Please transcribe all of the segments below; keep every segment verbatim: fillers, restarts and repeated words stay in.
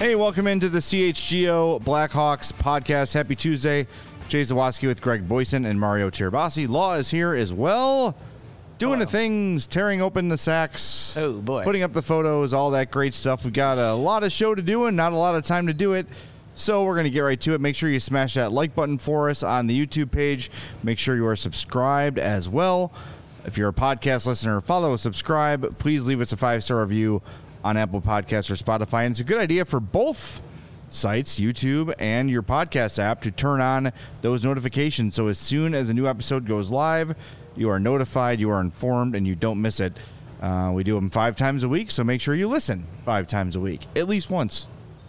Hey, welcome into the C H G O Blackhawks podcast. Happy Tuesday. Jay Zawaski with Greg Boyson and Mario Tirabassi. Law is here as well. Doing Hello. the things, tearing open the sacks. Oh, boy. Putting up the photos, all that great stuff. We've got a lot of show to do and not a lot of time to do it. So we're going to get right to it. Make sure you smash that like button for us on the YouTube page. Make sure you are subscribed as well. If you're a podcast listener, follow, subscribe. Please leave us a five-star review on Apple Podcasts or Spotify. And it's a good idea for both sites, YouTube and your podcast app, to turn on those notifications. So as soon as a new episode goes live, you are notified, you are informed, and you don't miss it. Uh, we do them five times a week, so make sure you listen five times a week, at least once.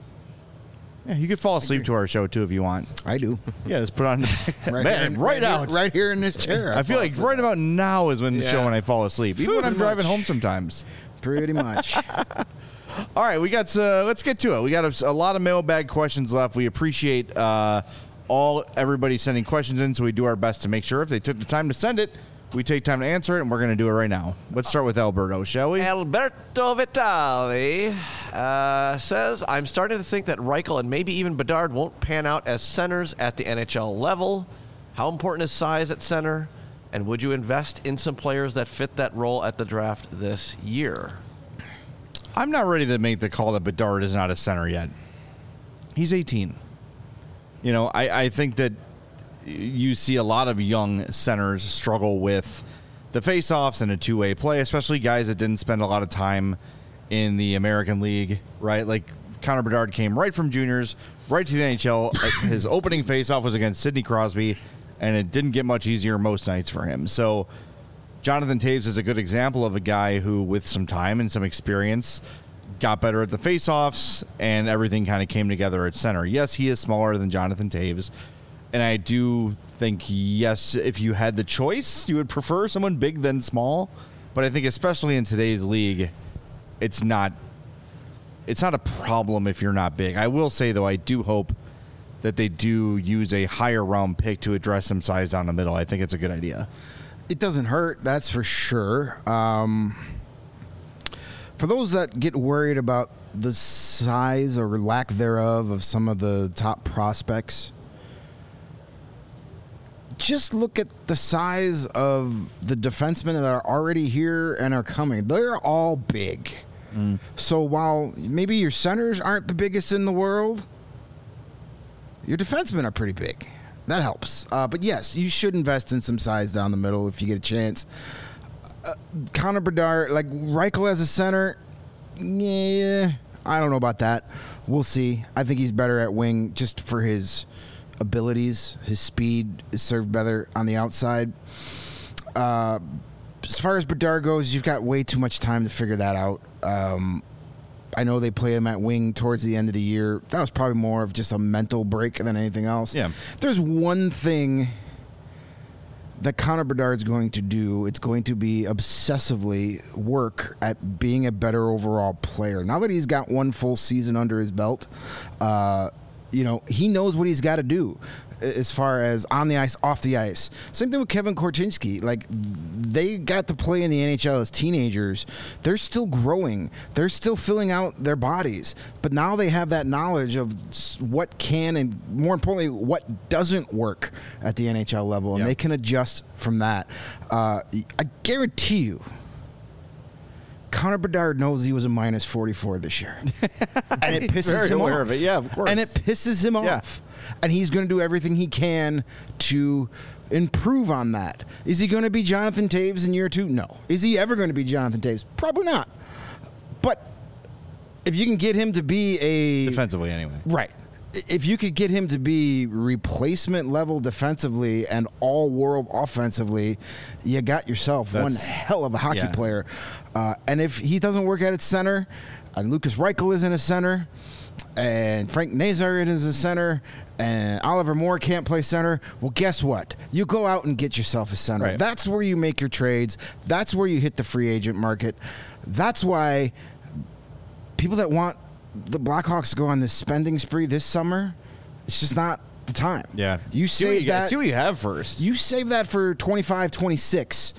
Yeah, you could fall asleep to our show, too, if you want. I do. Yeah, just put on the Right Man, here, right, right out. Here, right here in this chair. I feel like right about now is when the Yeah. show when I fall asleep, even when I'm Pretty driving much. home sometimes. Pretty much. All right, we got. Uh, let's get to it. We got a, a lot of mailbag questions left. We appreciate uh, all everybody sending questions in, so we do our best to make sure if they took the time to send it, we take time to answer it, and we're going to do it right now. Let's start with Alberto, shall we? Alberto Vitali uh, says, I'm starting to think that Reichel and maybe even Bedard won't pan out as centers at the N H L level. How important is size at center? And would you invest in some players that fit that role at the draft this year? I'm not ready to make the call that Bedard is not a center yet. He's eighteen. You know, I, I think that you see a lot of young centers struggle with the face-offs and a two-way play, especially guys that didn't spend a lot of time in the American League, right? Like Connor Bedard came right from juniors, right to the N H L. His opening face-off was against Sidney Crosby, and it didn't get much easier most nights for him. So Jonathan Toews is a good example of a guy who, with some time and some experience, got better at the face-offs, and everything kind of came together at center. Yes, he is smaller than Jonathan Toews, and I do think, yes, if you had the choice, you would prefer someone big than small. But I think especially in today's league, it's not it's not a problem if you're not big. I will say, though, I do hope that they do use a higher round pick to address some size down the middle. I think it's a good idea. It doesn't hurt, that's for sure. Um, for those that get worried about the size or lack thereof of some of the top prospects, just look at the size of the defensemen that are already here and are coming. They're all big. Mm. So while maybe your centers aren't the biggest in the world, your defensemen are pretty big. That helps. Uh, but yes, you should invest in some size down the middle if you get a chance. Uh, Connor Bedard, like Reichel as a center, yeah, I don't know about that. We'll see. I think he's better at wing just for his abilities. His speed is served better on the outside. Uh, as far as Bedard goes, you've got way too much time to figure that out. Um, I know they play him at wing towards the end of the year. That was probably more of just a mental break than anything else. Yeah. If there's one thing that Connor Bedard's going to do, it's going to be obsessively work at being a better overall player. Now that he's got one full season under his belt, uh, you know, he knows what he's got to do as far as on the ice, off the ice. Same thing with Kevin Korchinski. Like, they got to play in the N H L as teenagers. They're still growing. They're still filling out their bodies. But now they have that knowledge of what can and, more importantly, what doesn't work at the N H L level, and Yep. they can adjust from that. Uh, I guarantee you, Connor Bedard knows he was a minus forty-four this year. And it pisses Very him aware off. of it. Yeah, of course. And it pisses him Yeah. off. And he's going to do everything he can to improve on that. Is he going to be Jonathan Toews in year two? No. Is he ever going to be Jonathan Toews? Probably not. But if you can get him to be a... Defensively, anyway. Right. If you could get him to be replacement level defensively and all world offensively, you got yourself That's, one hell of a hockey yeah. player. Uh, and if he doesn't work at its center, and Lucas Reichel isn't a center, and Frank Nazar is a center, and Oliver Moore can't play center, well, guess what? You go out and get yourself a center. Right. That's where you make your trades. That's where you hit the free agent market. That's why people that want the Blackhawks to go on this spending spree this summer, it's just not the time. Yeah. You see what save you got- that. see what you have first. You save that for twenty-five, twenty-six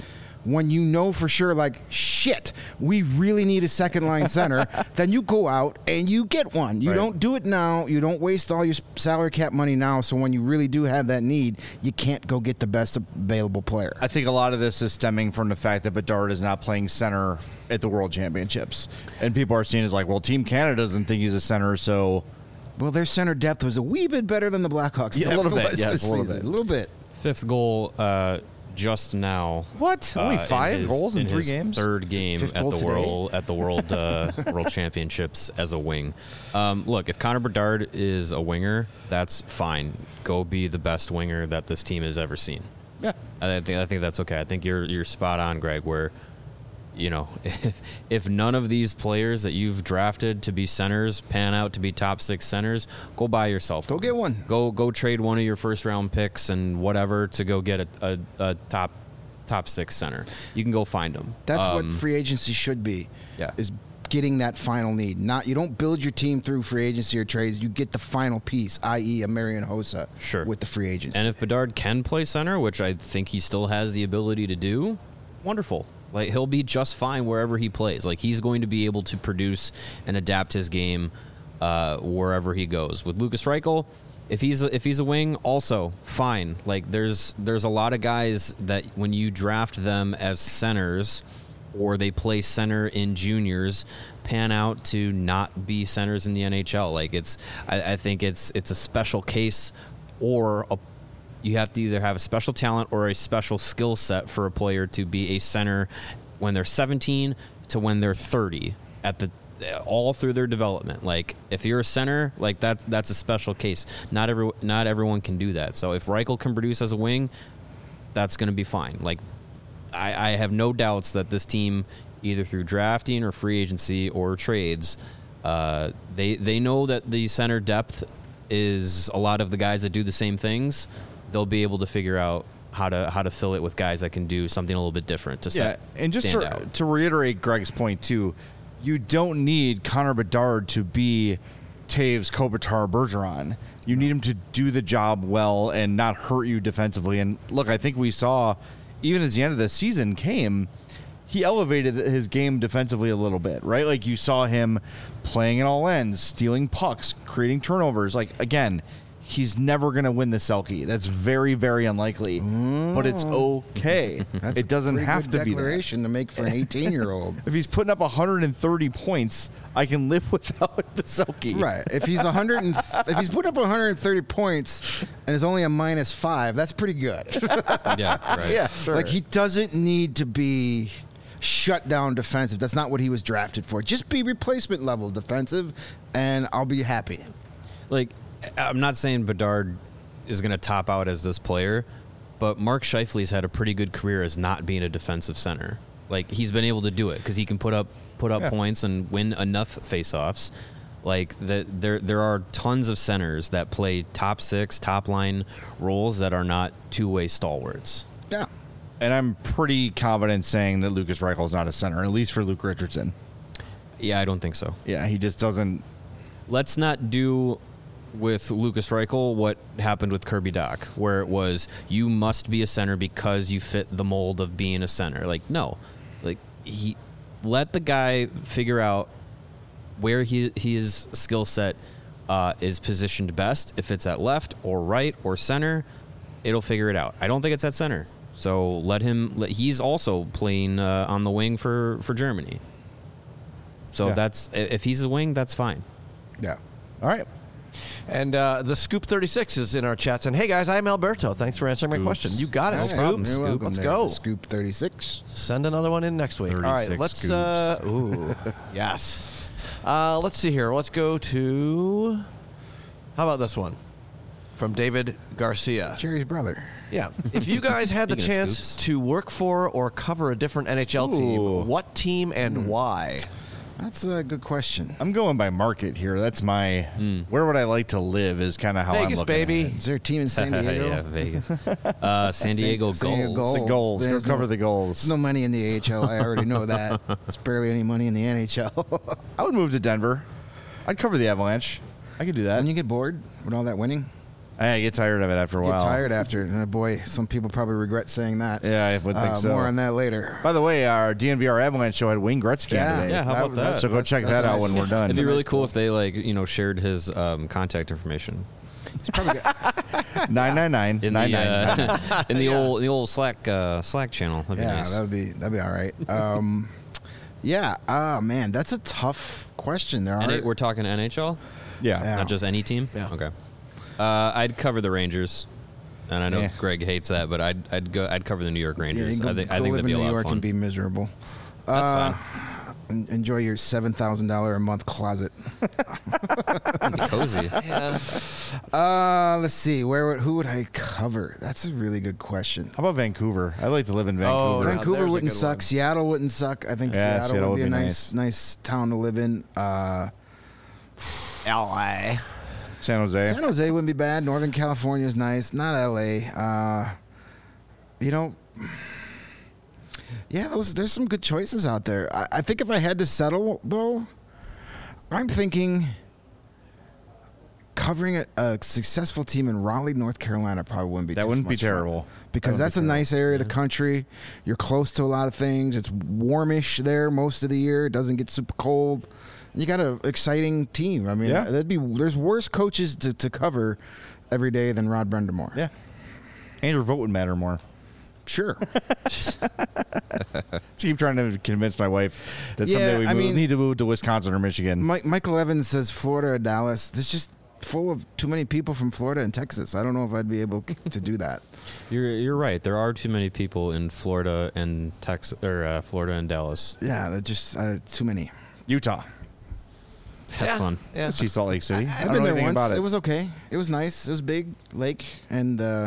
when you know for sure, like, shit, we really need a second line center, then you go out and you get one. You Right. don't do it now. You don't waste all your salary cap money now. So when you really do have that need, you can't go get the best available player. I think a lot of this is stemming from the fact that Bedard is not playing center at the World Championships. And people are seeing it as like, well, Team Canada doesn't think he's a center, so... Well, their center depth was a wee bit better than the Blackhawks. Yeah, a depth little bit, was yes, this a little season. bit. A little bit. Fifth goal uh, just now. What? Only uh, five his- goals in, three his games? Third game Fifth at goal the today. world at the world uh, World Championships as a wing. Um, look, if Connor Bedard is a winger, that's fine. Go be the best winger that this team has ever seen. Yeah. I think I think that's okay. I think you're you're spot on, Greg. Where, you know, if if none of these players that you've drafted to be centers pan out to be top six centers, go buy yourself. Go one. get one. Go go trade one of your first round picks and whatever to go get a, a, a top top six center. You can go find them. That's Um, what free agency should be. Yeah. Is getting that final need. Not you don't build your team through free agency or trades. You get the final piece, that is, a Marian Hossa. Sure. With the free agency. And if Bedard can play center, which I think he still has the ability to do, wonderful. Like he'll be just fine wherever he plays. Like he's going to be able to produce and adapt his game uh, wherever he goes. With Lucas Reichel, if he's a, if he's a wing, also fine. Like there's there's a lot of guys that when you draft them as centers or they play center in juniors, pan out to not be centers in the N H L. Like it's I, I think it's it's a special case or a you have to either have a special talent or a special skill set for a player to be a center when they're seventeen to when they're thirty at the all through their development. Like if you're a center, like that's that's a special case. Not every not everyone can do that. So if Reichel can produce as a wing, that's going to be fine. Like I, I have no doubts that this team, either through drafting or free agency or trades, uh, they they know that the center depth is a lot of the guys that do the same things. They'll be able to figure out how to how to fill it with guys that can do something a little bit different to Yeah, set, and just stand to, out. to reiterate Greg's point, too, you don't need Connor Bedard to be Taves, Kopitar, Bergeron. You need him to do the job well and not hurt you defensively. And look, I think we saw, even as the end of the season came, he elevated his game defensively a little bit, right? Like you saw him playing at all ends, stealing pucks, creating turnovers. Like, again, he's never going to win the Selke. That's very, very unlikely, but it's okay. That's it doesn't a pretty have good to be that. declaration to make for an eighteen-year-old. If he's putting up one hundred thirty points, I can live without the Selke. Right. If he's one hundred and if he's put up one hundred thirty points and is only a minus five, that's pretty good. Yeah, right. Yeah, sure. Like he doesn't need to be shut down defensive. That's not what he was drafted for. Just be replacement level defensive, and I'll be happy. Like, I'm not saying Bedard is going to top out as this player, but Mark Scheifele's had a pretty good career as not being a defensive center. Like, he's been able to do it because he can put up put up Yeah. points and win enough faceoffs. Like, the, there there are tons of centers that play top six, top line roles that are not two-way stalwarts. Yeah. And I'm pretty confident saying that Lucas Reichel is not a center, at least for Luke Richardson. Yeah, I don't think so. Yeah, he just doesn't. Let's not do with Lucas Reichel what happened with Kirby Doc, where it was you must be a center because you fit the mold of being a center. Like, no. Like, he let the guy figure out where he his skill set uh, is positioned best. If it's at left or right or center, it'll figure it out. I don't think it's at center. So let him let, he's also playing uh, on the wing for, for Germany. So Yeah. that's if he's a wing, that's fine. Yeah. All right. And uh, the Scoop thirty-six is in our chats. And hey, guys, I'm Alberto. Thanks for answering my Oops. question. You got it, No Scoop. problem, You're Scoop. welcome Let's there, go. Scoop thirty-six. Send another one in next week. All right, thirty-six let's. Uh, ooh, yes. Uh, let's see here. Let's go to. How about this one? From David Garcia. Jerry's brother. Yeah. If you guys had the Speaking of chance scoops. to work for or cover a different N H L Ooh. team, what team and why? That's a good question. I'm going by market here. That's my. Where would I like to live is kind of how I'm Vegas, looking baby. at it. Is there a team in San Diego? yeah, Vegas. Uh, San Diego San Diego Gulls. The goals. Go There's cover no- the goals. There's no money in the A H L. I already know that. There's barely any money in the N H L. I would move to Denver. I'd cover the Avalanche. I could do that. When you get bored with all that winning, I get tired of it after a Get while. tired after. Uh, boy, some people probably regret saying that. Yeah, I would think Uh, so. More on that later. By the way, our D N V R Avalanche show had Wayne Gretzky Yeah. on today. Yeah, how about was- that? So go that's- check that's that out nice. when we're done. It'd be a really nice cool goal. if they like you know shared his um, contact information It's probably good. nine nine nine in nine the nine. uh, in the old the old Slack uh, Slack channel. That'd be Yeah, nice. that would be that'd be all right. Um, yeah. Ah, man, that's a tough question. There are. N- we're talking N H L, Yeah. Yeah. not just any team. Yeah. Okay. Uh, I'd cover the Rangers, and I know Yeah. Greg hates that, but I'd I'd go I'd cover the New York Yeah, you Rangers. can go, I think go I think live that'd be in a New lot York of fun. and be miserable. That's Uh, fine. en- Enjoy your seven thousand dollar a month closet. It'd be cozy. Yeah. Uh, let's see. Where would, who would I cover? That's a really good question. How about Vancouver? I'd like to live in Oh, Vancouver. yeah. Vancouver there's a wouldn't good suck. one. Seattle wouldn't suck. I think Yeah, Seattle, Seattle would be would a be nice, nice town to live in. Uh, L A. San Jose. San Jose wouldn't be bad. Northern California is nice. Not L A. Uh, you know, yeah, those there's some good choices out there. I, I think if I had to settle, though, I'm thinking covering a, a successful team in Raleigh, North Carolina, probably wouldn't be That too wouldn't be much fun. terrible. Because That that's wouldn't a be nice area of the country. You're close to a lot of things. It's warmish there most of the year. It doesn't get super cold. And you got an exciting team. I mean, Yeah. that'd be there's worse coaches to, to cover every day than Rod Brendamore. Yeah. And your vote would matter more. Sure. Keep trying to convince my wife that Yeah, someday we I move, mean- need to move to Wisconsin or Michigan. Mike, Michael Evans says Florida or Dallas. It's just full of too many people from Florida and Texas. I don't know if I'd be able to do that. You're you're right. There are too many people in Florida and Texas or uh, Florida and Dallas. Yeah, that's just uh, too many. Utah. Have Yeah. fun. Yeah. See Salt Lake City. I, I've don't been know there anything once. about It. it. was okay. It was nice. It was big lake and uh,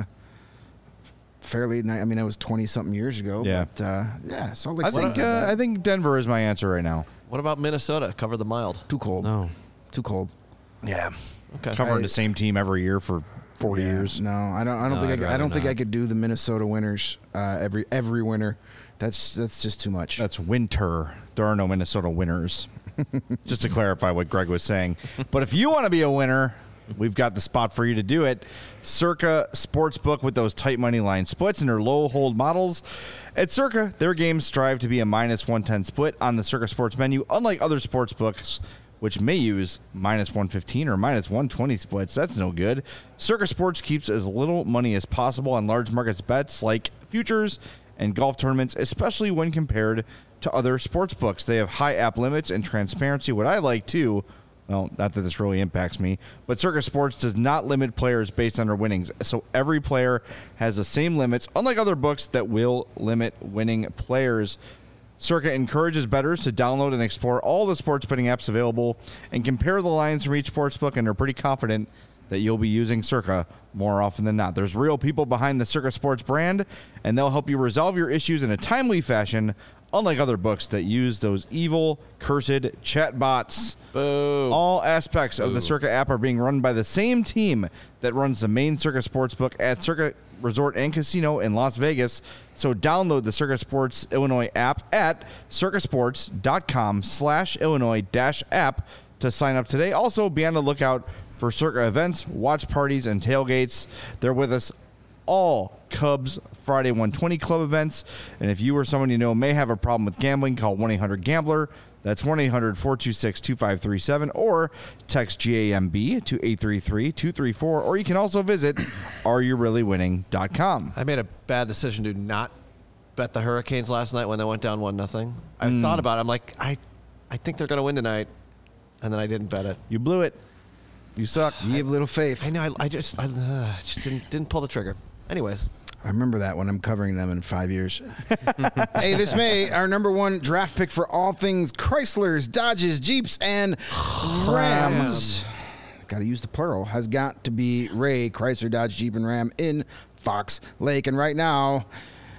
fairly. Ni- I mean, it was twenty something years ago. Yeah. But uh, yeah, Salt Lake I City's think not uh, bad. I think Denver is my answer right now. What about Minnesota? Cover the mild. too cold. No. Too cold. Yeah. Okay. Covering I- the same team every year for forty Yeah, years. No, I don't. I don't No, think. I'd I, I don't rather think I not. could do the Minnesota Winners uh, every every winter. That's that's just too much. That's winter. There are no Minnesota winners. Just to clarify what Greg was saying. But if you want to be a winner, we've got the spot for you to do it. Circa Sportsbook with those tight money line splits and their low hold models. At Circa, their games strive to be a minus one ten split on the Circa Sports menu, unlike other sports books, which may use minus one fifteen or minus one twenty splits. That's no good. Circa Sports keeps as little money as possible on large markets bets like futures and golf tournaments, especially when compared to other sports books. They have high app limits and transparency. What I like too, well, not that this really impacts me, but Circa Sports does not limit players based on their winnings. So every player has the same limits, unlike other books that will limit winning players. Circa encourages bettors to download and explore all the sports betting apps available and compare the lines from each sportsbook, and they're pretty confident that you'll be using Circa more often than not. There's real people behind the Circa Sports brand, and they'll help you resolve your issues in a timely fashion, unlike other books that use those evil, cursed chatbots. Boo. All aspects of the Circa app are being run by the same team that runs the main Circa Sportsbook at Circa Resort and Casino in Las Vegas. So download the Circa Sports Illinois app at circasports.com slash Illinois dash app to sign up today. Also, be on the lookout for Circa events, watch parties, and tailgates. They're with us all Cubs Friday one twenty Club events. And if you or someone you know may have a problem with gambling, call one eight hundred gambler. That's one eight hundred four two six two five three seven or text G A M B to eight three three two three four, or you can also visit are you really winning dot com. I made a bad decision to not bet the Hurricanes last night when they went down one nothing. I Hmm. thought about it. I'm like, I, I think they're going to win tonight, and then I didn't bet it. You blew it. You suck. You have little faith. I know. I, I just, I uh, just didn't didn't pull the trigger. Anyways, I remember that when I'm covering them in five years. Hey, this May, our number one draft pick for all things Chryslers, Dodges, Jeeps, and Rams. Got to use the plural. Has got to be Ray Chrysler, Dodge, Jeep, and Ram in Fox Lake. And right now,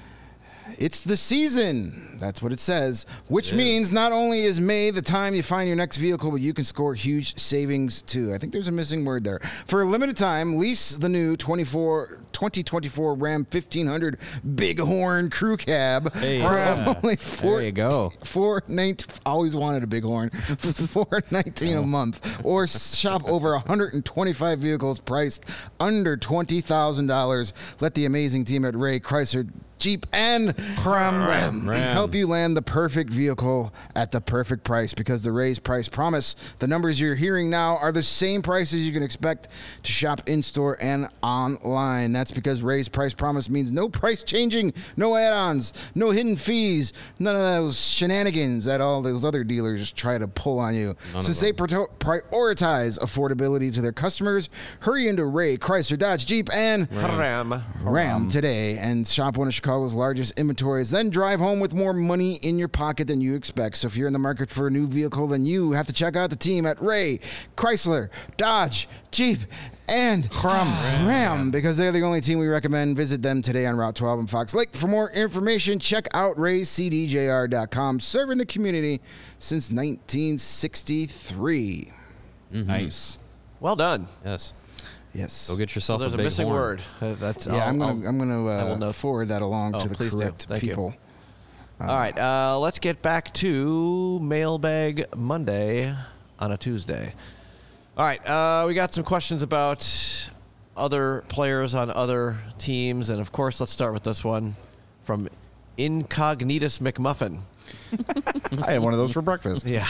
it's the season. That's what it says. Which means not only is May the time you find your next vehicle, but you can score huge savings too. I think there's a missing word there. For a limited time, lease the new twenty-four twenty twenty-four Ram fifteen hundred Bighorn Crew Cab Hey, for yeah. only four, There you go. four nineteen. Always wanted a Bighorn. four nineteen a month, or shop over one hundred twenty-five vehicles priced under twenty thousand dollars. Let the amazing team at Ray Chrysler Jeep and Ram, Ram, Ram. help you land the perfect vehicle at the perfect price, because the Ray's price promise. The numbers you're hearing now are the same prices you can expect to shop in store and online. That's because Ray's price promise means no price changing, no add-ons, no hidden fees, none of those shenanigans that all those other dealers try to pull on you. None of Since they them. pri- prioritize affordability to their customers, hurry into Ray Chrysler Dodge Jeep and Ram. Ram today and shop one of Chicago's largest inventories. Then drive home with more money in your pocket than you expect. So if you're in the market for a new vehicle, then you have to check out the team at Ray Chrysler Dodge Jeep and Ram, Ram, because they're the only team we recommend. Visit them today on Route twelve in Fox Lake. For more information, check out ray c d j r dot com. Serving the community since nineteen sixty-three. Nice. Well done. Yes. Yes. Go get So yourself there's a a big missing horn. word. Uh, That's Yeah, I'll- I'm I'll- gonna I'm gonna I will uh, note. forward that along Oh, to the please do. correct Thank you. people. All right, uh, let's get back to Mailbag Monday on a Tuesday. All right, uh, we got some questions about other players on other teams, and of course, let's start with this one from Incognitus McMuffin. I had one of those for breakfast. Yeah.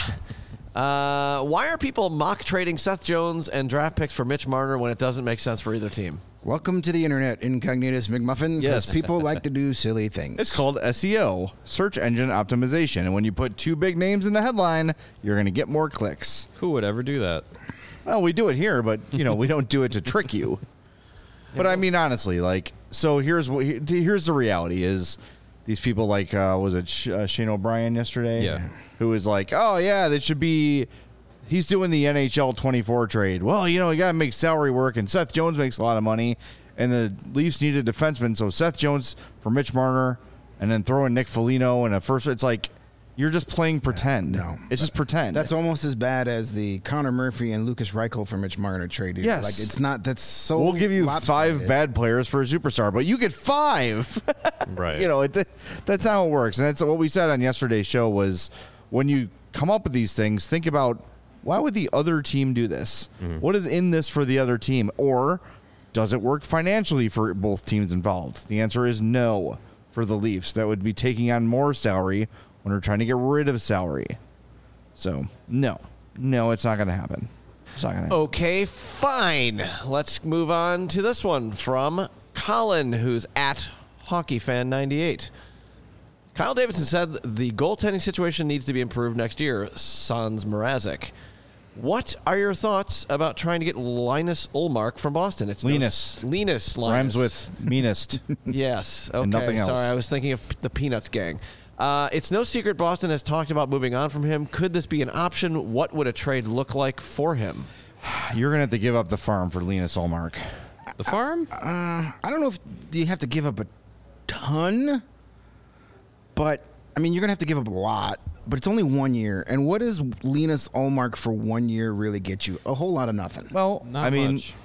Uh, why are people mock trading Seth Jones and draft picks for Mitch Marner when it doesn't make sense for either team? Welcome to the internet, Incognitus McMuffin, because Yes. people like to do silly things. It's called S E O, search engine optimization. And when you put two big names in the headline, you're going to get more clicks. Who would ever do that? Well, we do it here, but you know, we don't do it to trick you. But I mean, honestly, like, so here's what here's the reality: is these people like uh, was it Sh- uh, Shane O'Brien yesterday? Yeah. Who was like, oh yeah, that should be. He's doing the N H L twenty-four trade. Well, you know, you got to make salary work, and Seth Jones makes a lot of money, and the Leafs need a defenseman, so Seth Jones for Mitch Marner, and then throw in Nick Foligno and a first. It's like you're just playing pretend. no. it's just pretend. That's almost as bad as the Connor Murphy and Lucas Reichel for Mitch Marner trade. dude. Yes. Like, it's not, that's so We'll give you lopsided. five bad players for a superstar, but you get five. Right. You know, it, that's how it works. And that's what we said on yesterday's show was when you come up with these things, think about why would the other team do this? Mm-hmm. What is in this for the other team? Or does it work financially for both teams involved? The answer is no for the Leafs. That would be taking on more salary when we're trying to get rid of salary. So, no. No, it's not going to happen. It's not going to happen. Okay, fine. Let's move on to this one from Colin, who's at HockeyFan ninety-eight. Kyle Davidson said the goaltending situation needs to be improved next year. Sans Mrazek. What are your thoughts about trying to get Linus Ullmark from Boston? It's no- Linus. Linus. Linus. Rhymes with meanest. Yes. Okay. nothing else. Sorry, I was thinking of the Peanuts gang. Uh, it's no secret Boston has talked about moving on from him. Could this be an option? What would a trade look like for him? You're going to have to give up the farm for Linus Ullmark. The farm? I don't know if you have to give up a ton, but I mean, you're going to have to give up a lot, but it's only one year. And what does Linus Ullmark for one year really get you? A whole lot of nothing. Well, Not I mean, much.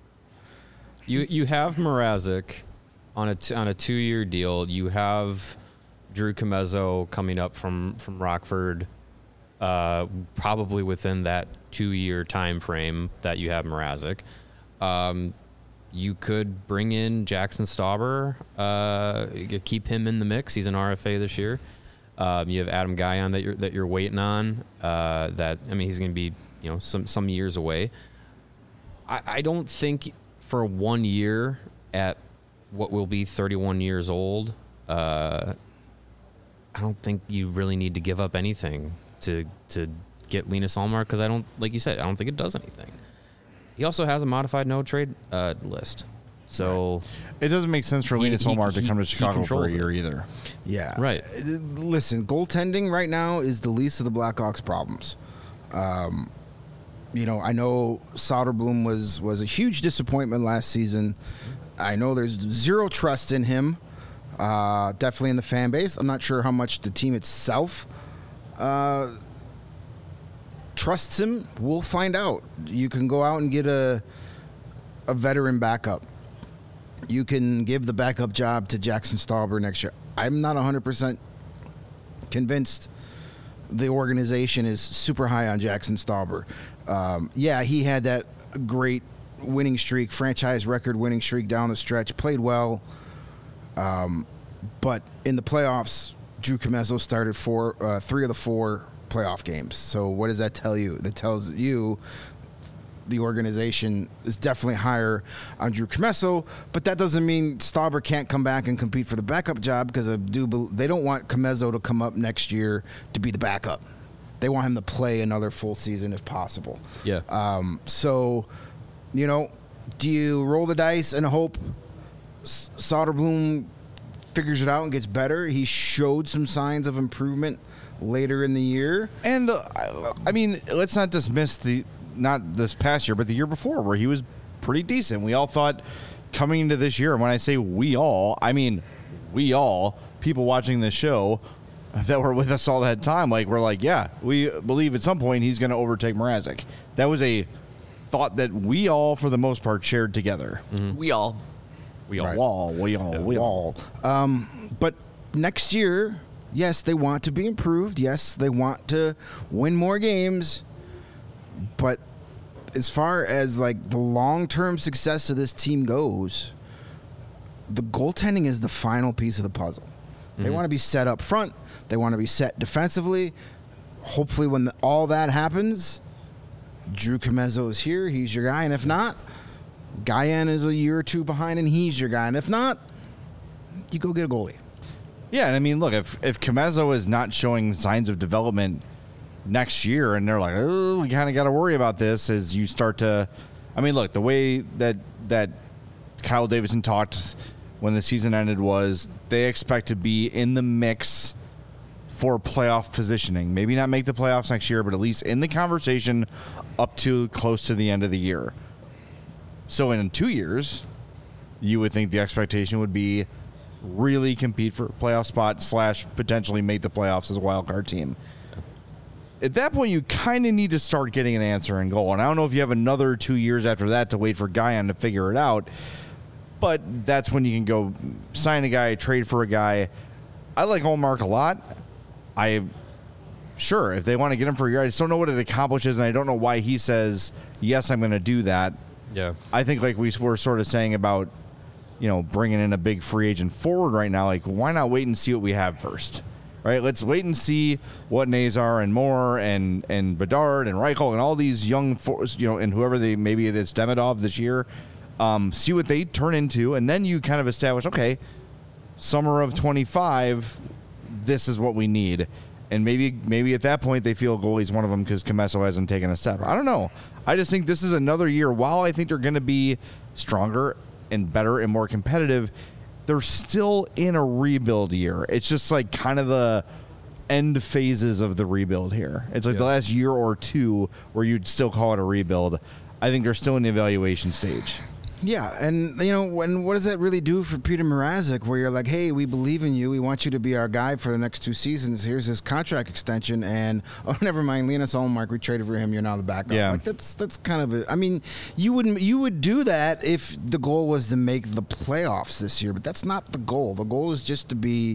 You you have Mrazek on a t- on a two year deal. You have Drew Comezzo coming up from from Rockford, uh, probably within that two year time frame that you have Mrazek. Um, you could bring in Jackson Stauber, uh, you could keep him in the mix. He's an R F A this year. Um, you have Adam Guyon that you're that you're waiting on. Uh, that I mean, he's going to be you know some some years away. I, I don't think for one year at what will be thirty-one years old. Uh, I don't think you really need to give up anything to to get Linus Ullmark because I don't like you said I don't think it does anything. He also has a modified no trade uh, list, so it doesn't make sense for He- Linus he- Ullmark to he- come to he Chicago for a controls it. year either. Yeah. Right. Uh, Listen, goaltending right now is the least of the Blackhawks' problems. Um, you know, I know Soderblom was was a huge disappointment last season. I know there's zero trust in him. Uh, definitely in the fan base. I'm not sure how much the team itself uh, trusts him. We'll find out. You can go out and get a a veteran backup. you can give the backup job to Jackson Stauber next year. I'm not one hundred percent convinced the organization is super high on Jackson Stauber. Um, yeah, he had that great winning streak, franchise record winning streak down the stretch, played well. Um, but in the playoffs, Drew Commesso started four, uh, three of the four playoff games. So what does that tell you? That tells you the organization is definitely higher on Drew Commesso, but that doesn't mean Stauber can't come back and compete for the backup job, because I do bel- they don't want Commesso to come up next year to be the backup. They want him to play another full season if possible. Yeah. Um, so, you know, do you roll the dice and hope S- Soderblom figures it out and gets better? He showed some signs of improvement later in the year. And, uh, I, I mean, let's not dismiss the, not this past year, but the year before, where he was pretty decent. We all thought coming into this year, and when I say we all, I mean we all, people watching this show that were with us all that time, like, we're like, yeah, we believe at some point he's going to overtake Mrazek. That was a thought that we all, for the most part, shared together. Mm-hmm. We all. We all, Right. all, we all, we all. Wall. Um, but next year, yes, they want to be improved. Yes, they want to win more games. But as far as like the long-term success of this team goes, the goaltending is the final piece of the puzzle. They want to be set up front. They want to be set defensively. Hopefully, when the, all that happens, Drew Commesso is here. He's your guy. And if not, Guyan is a year or two behind, and he's your guy. And if not, you go get a goalie. Yeah, and I mean, look, if if Commesso is not showing signs of development next year, and they're like, oh, we kind of got to worry about this, as you start to, I mean, look, the way that that Kyle Davidson talked when the season ended was they expect to be in the mix for playoff positioning. Maybe not make the playoffs next year, but at least in the conversation up to close to the end of the year. So in two years, you would think the expectation would be really compete for a playoff spot slash potentially make the playoffs as a wild card team. At that point, you kind of need to start getting an answer and goal. And I don't know if you have another two years after that to wait for Guyan to figure it out, but that's when you can go sign a guy, trade for a guy. I like Ullmark a lot. I sure if they want to get him for a year, I just don't know what it accomplishes, and I don't know why he says yes, I'm going to do that. Yeah. I think like we were sort of saying about, you know, bringing in a big free agent forward right now, like why not wait and see what we have first, right? Let's wait and see what Nazar and Moore and and Bedard and Reichel and all these young, for, you know, and whoever they maybe it's Demidov this year, um, see what they turn into, and then you kind of establish, okay, summer of twenty-five, this is what we need. And maybe maybe at that point they feel goalie's one of them because Commesso hasn't taken a step. I don't know. I just think this is another year. While I think they're going to be stronger and better and more competitive, they're still in a rebuild year. It's just like kind of the end phases of the rebuild here. It's like Yeah. the last year or two where you'd still call it a rebuild. I think they're still in the evaluation stage. Yeah, and you know, when what does that really do for Peter Mrazek? Where you're like, hey, we believe in you. We want you to be our guy for the next two seasons. Here's this contract extension, and oh, never mind, Linus Ullmark, we traded for him. You're now the backup. Yeah. Like that's that's kind of. A, I mean, you would you would do that if the goal was to make the playoffs this year, but that's not the goal. The goal is just to be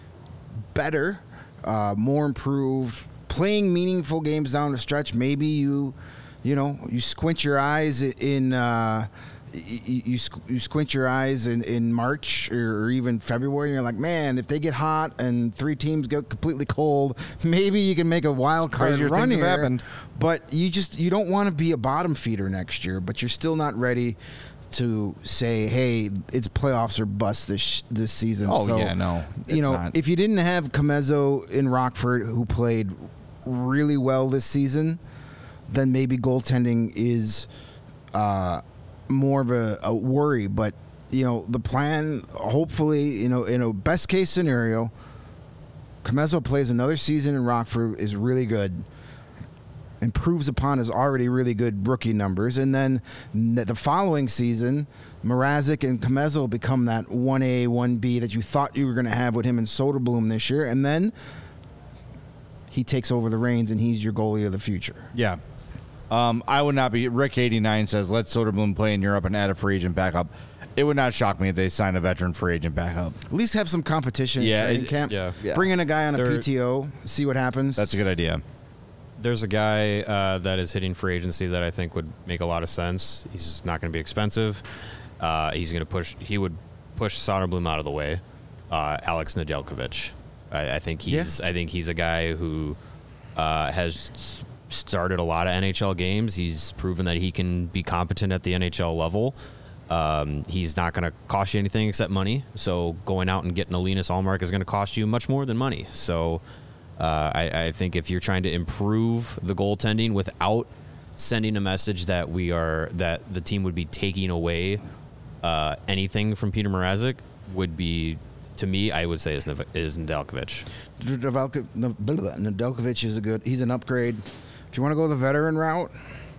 better, uh, more improved, playing meaningful games down the stretch. Maybe you, you know, you squint your eyes in. Uh, You, you, you squint your eyes in, in March or even February, and you're like, man, if they get hot and three teams go completely cold, maybe you can make a wild card Crazier run things have here. happened. But you just you don't want to be a bottom feeder next year. But you're still not ready to say, hey, it's playoffs or bust this this season. Oh, so, yeah, no, you it's know, not. if you didn't have Commesso in Rockford, who played really well this season, then maybe goaltending is. Uh, more of a, a worry, but you know the plan. Hopefully, you know in a best case scenario, Commesso plays another season in Rockford, is really good, improves upon his already really good rookie numbers, and then the following season, Mrazek and Commesso become that one A, one B that you thought you were going to have with him and Soderblom this year, and then he takes over the reins and he's your goalie of the future. Yeah. Um, I would not be. Rick eighty-nine says, let Soderblom play in Europe and add a free agent backup. It would not shock me if they signed a veteran free agent back up. At least have some competition Yeah, in training it- camp. yeah. Yeah. Bring in a guy on a They're- P T O, see what happens. That's a good idea. There's a guy uh, that is hitting free agency that I think would make a lot of sense. He's not going to be expensive. Uh, he's going to push. He would push Soderblom out of the way. Uh, Alex Nedeljkovic. I, I think he's. I think he's a guy who uh, has s- started a lot of N H L games. He's proven that he can be competent at the N H L level. Um, he's not going to cost you anything except money. So going out and getting a Linus Allmark is going to cost you much more than money. So uh, I, I think if you're trying to improve the goaltending without sending a message that we are that the team would be taking away uh, anything from Peter Mrazek, would be, to me, I would say is Nev- is Nedeljkovic. Nedeljko- Ne- blah, blah, blah. Nedeljkovic is a good. He's an upgrade. If you want to go the veteran route,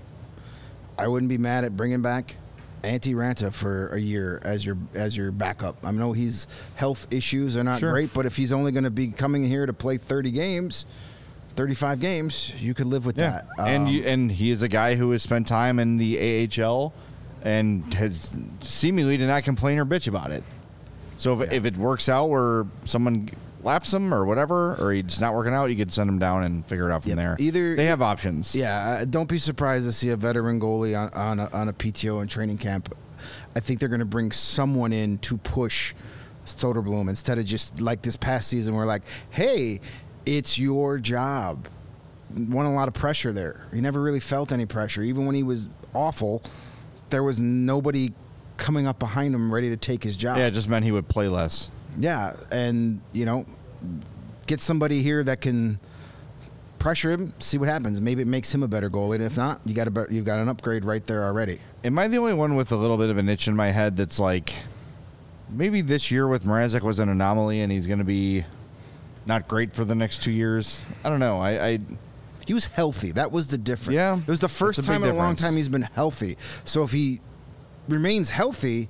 I wouldn't be mad at bringing back Antti Ranta for a year as your as your backup. I know he's health issues are not Sure. great, but if he's only going to be coming here to play thirty games, thirty-five games, you could live with Yeah, that. and Um, you, and he is a guy who has spent time in the A H L and has seemingly did not complain or bitch about it. So if, Yeah. if it works out where someone laps him or whatever, or he's not working out, you could send him down and figure it out from Yep. there. Either- they have options. Yeah, uh, don't be surprised to see a veteran goalie on, on, a, on a P T O and training camp. I think they're going to bring someone in to push Soderblom instead of just like this past season where like, hey, it's your job. Won a lot of pressure there. He never really felt any pressure. Even when he was awful, there was nobody coming up behind him ready to take his job. Yeah, it just meant he would play less. Yeah, and you know, get somebody here that can pressure him, see what happens. Maybe it makes him a better goalie. And if not, you got a be- you've got an upgrade right there already. Am I the only one with a little bit of an itch in my head that's like, maybe this year with Mrazek was an anomaly and he's going to be not great for the next two years? I don't know. I, I He was healthy. That was the difference. Yeah, it was the first that's a time big in a long difference. time he's been healthy. So if he remains healthy,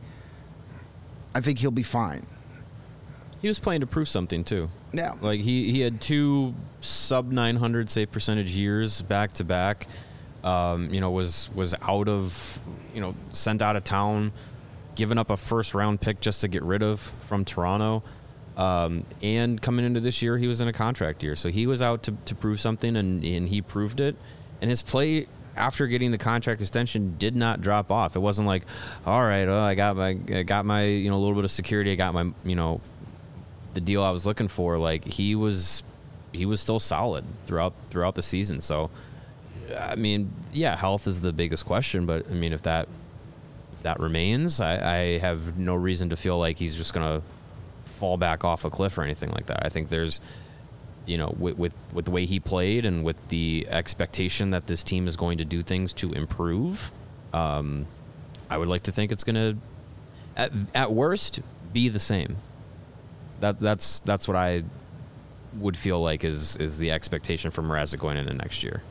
I think he'll be fine. He was playing to prove something too. Yeah. Like he, he had two sub nine hundred save percentage years back to back. Um, you know, was was out of, you know, sent out of town, given up a first round pick just to get rid of from Toronto. Um, and coming into this year, he was in a contract year. So he was out to, to prove something, and, and he proved it. And his play after getting the contract extension did not drop off. It wasn't like, all right, oh, I got my, I got my, you know, a little bit of security. I got my, you know, the deal I was looking for. Like he was, he was still solid throughout throughout the season. So, I mean, yeah, health is the biggest question. But I mean, if that if that remains, I, I have no reason to feel like he's just gonna fall back off a cliff or anything like that. I think there's, you know, with, with with the way he played and with the expectation that this team is going to do things to improve, um, I would like to think it's going to, at, at worst, be the same. That that's that's what I would feel like is is the expectation for Mrazek going into next year.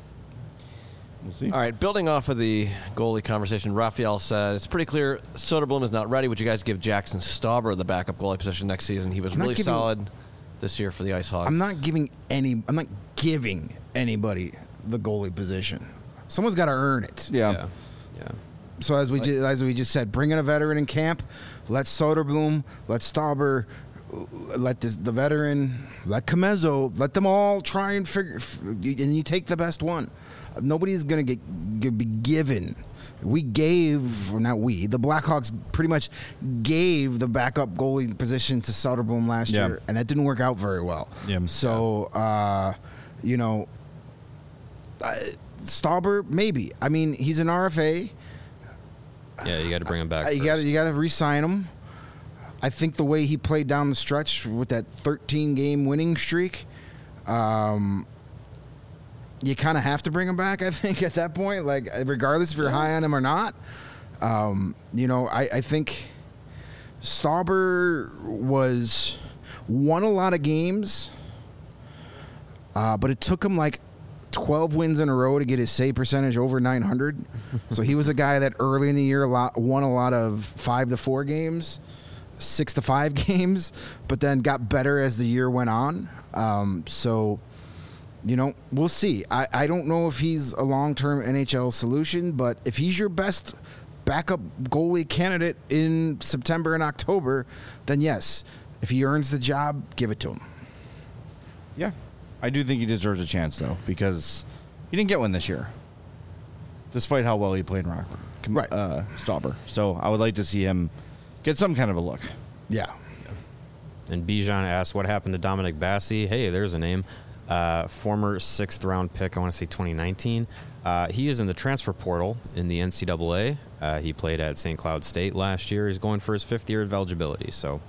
we'll see. All right, building off of the goalie conversation, Raphael said, it's pretty clear Soderblom is not ready. Would you guys give Jackson Stauber the backup goalie position next season? He was I'm not really giving- solid this year for the Ice Hogs. I'm not giving any. I'm not giving anybody the goalie position. Someone's got to earn it. Yeah. Yeah. Yeah. So as we ju- as we just said, bring in a veteran in camp. Let Soderblom, let Stauber, let this, the veteran, let Comezzo, let them all try and figure. f- And you take the best one. Nobody's gonna get g- be given. We gave, or not we, the Blackhawks pretty much gave the backup goalie position to Soderblom last Yeah. year, and that didn't work out very well. Yeah. So, uh, you know, uh, Stauber, maybe. I mean, he's an R F A. Yeah, you got to bring him back. Uh, You got first. you got to re-sign him. I think the way he played down the stretch with that thirteen game winning streak, um, you kind of have to bring him back. I think at that point, like regardless if you're high on him or not, um, you know, I, I think Stauber was won a lot of games, uh, but it took him like twelve wins in a row to get his save percentage over nine hundred. So he was a guy that early in the year a lot, won a lot of five to four games, six to five games, but then got better as the year went on. Um, so, you know, we'll see. I, I don't know if he's a long-term N H L solution, but if he's your best backup goalie candidate in September and October, then yes, if he earns the job, give it to him. Yeah. I do think he deserves a chance, though, because he didn't get one this year, despite how well he played in Rockford. Right. Uh, Stauber. So I would like to see him get some kind of a look. Yeah. And Bijan asked, what happened to Dominic Bassi? Hey, there's a name. Uh, former sixth round pick, I want to say twenty nineteen. Uh, he is in the transfer portal in the N C double A. Uh, he played at Saint Cloud State last year. He's going for his fifth year of eligibility. So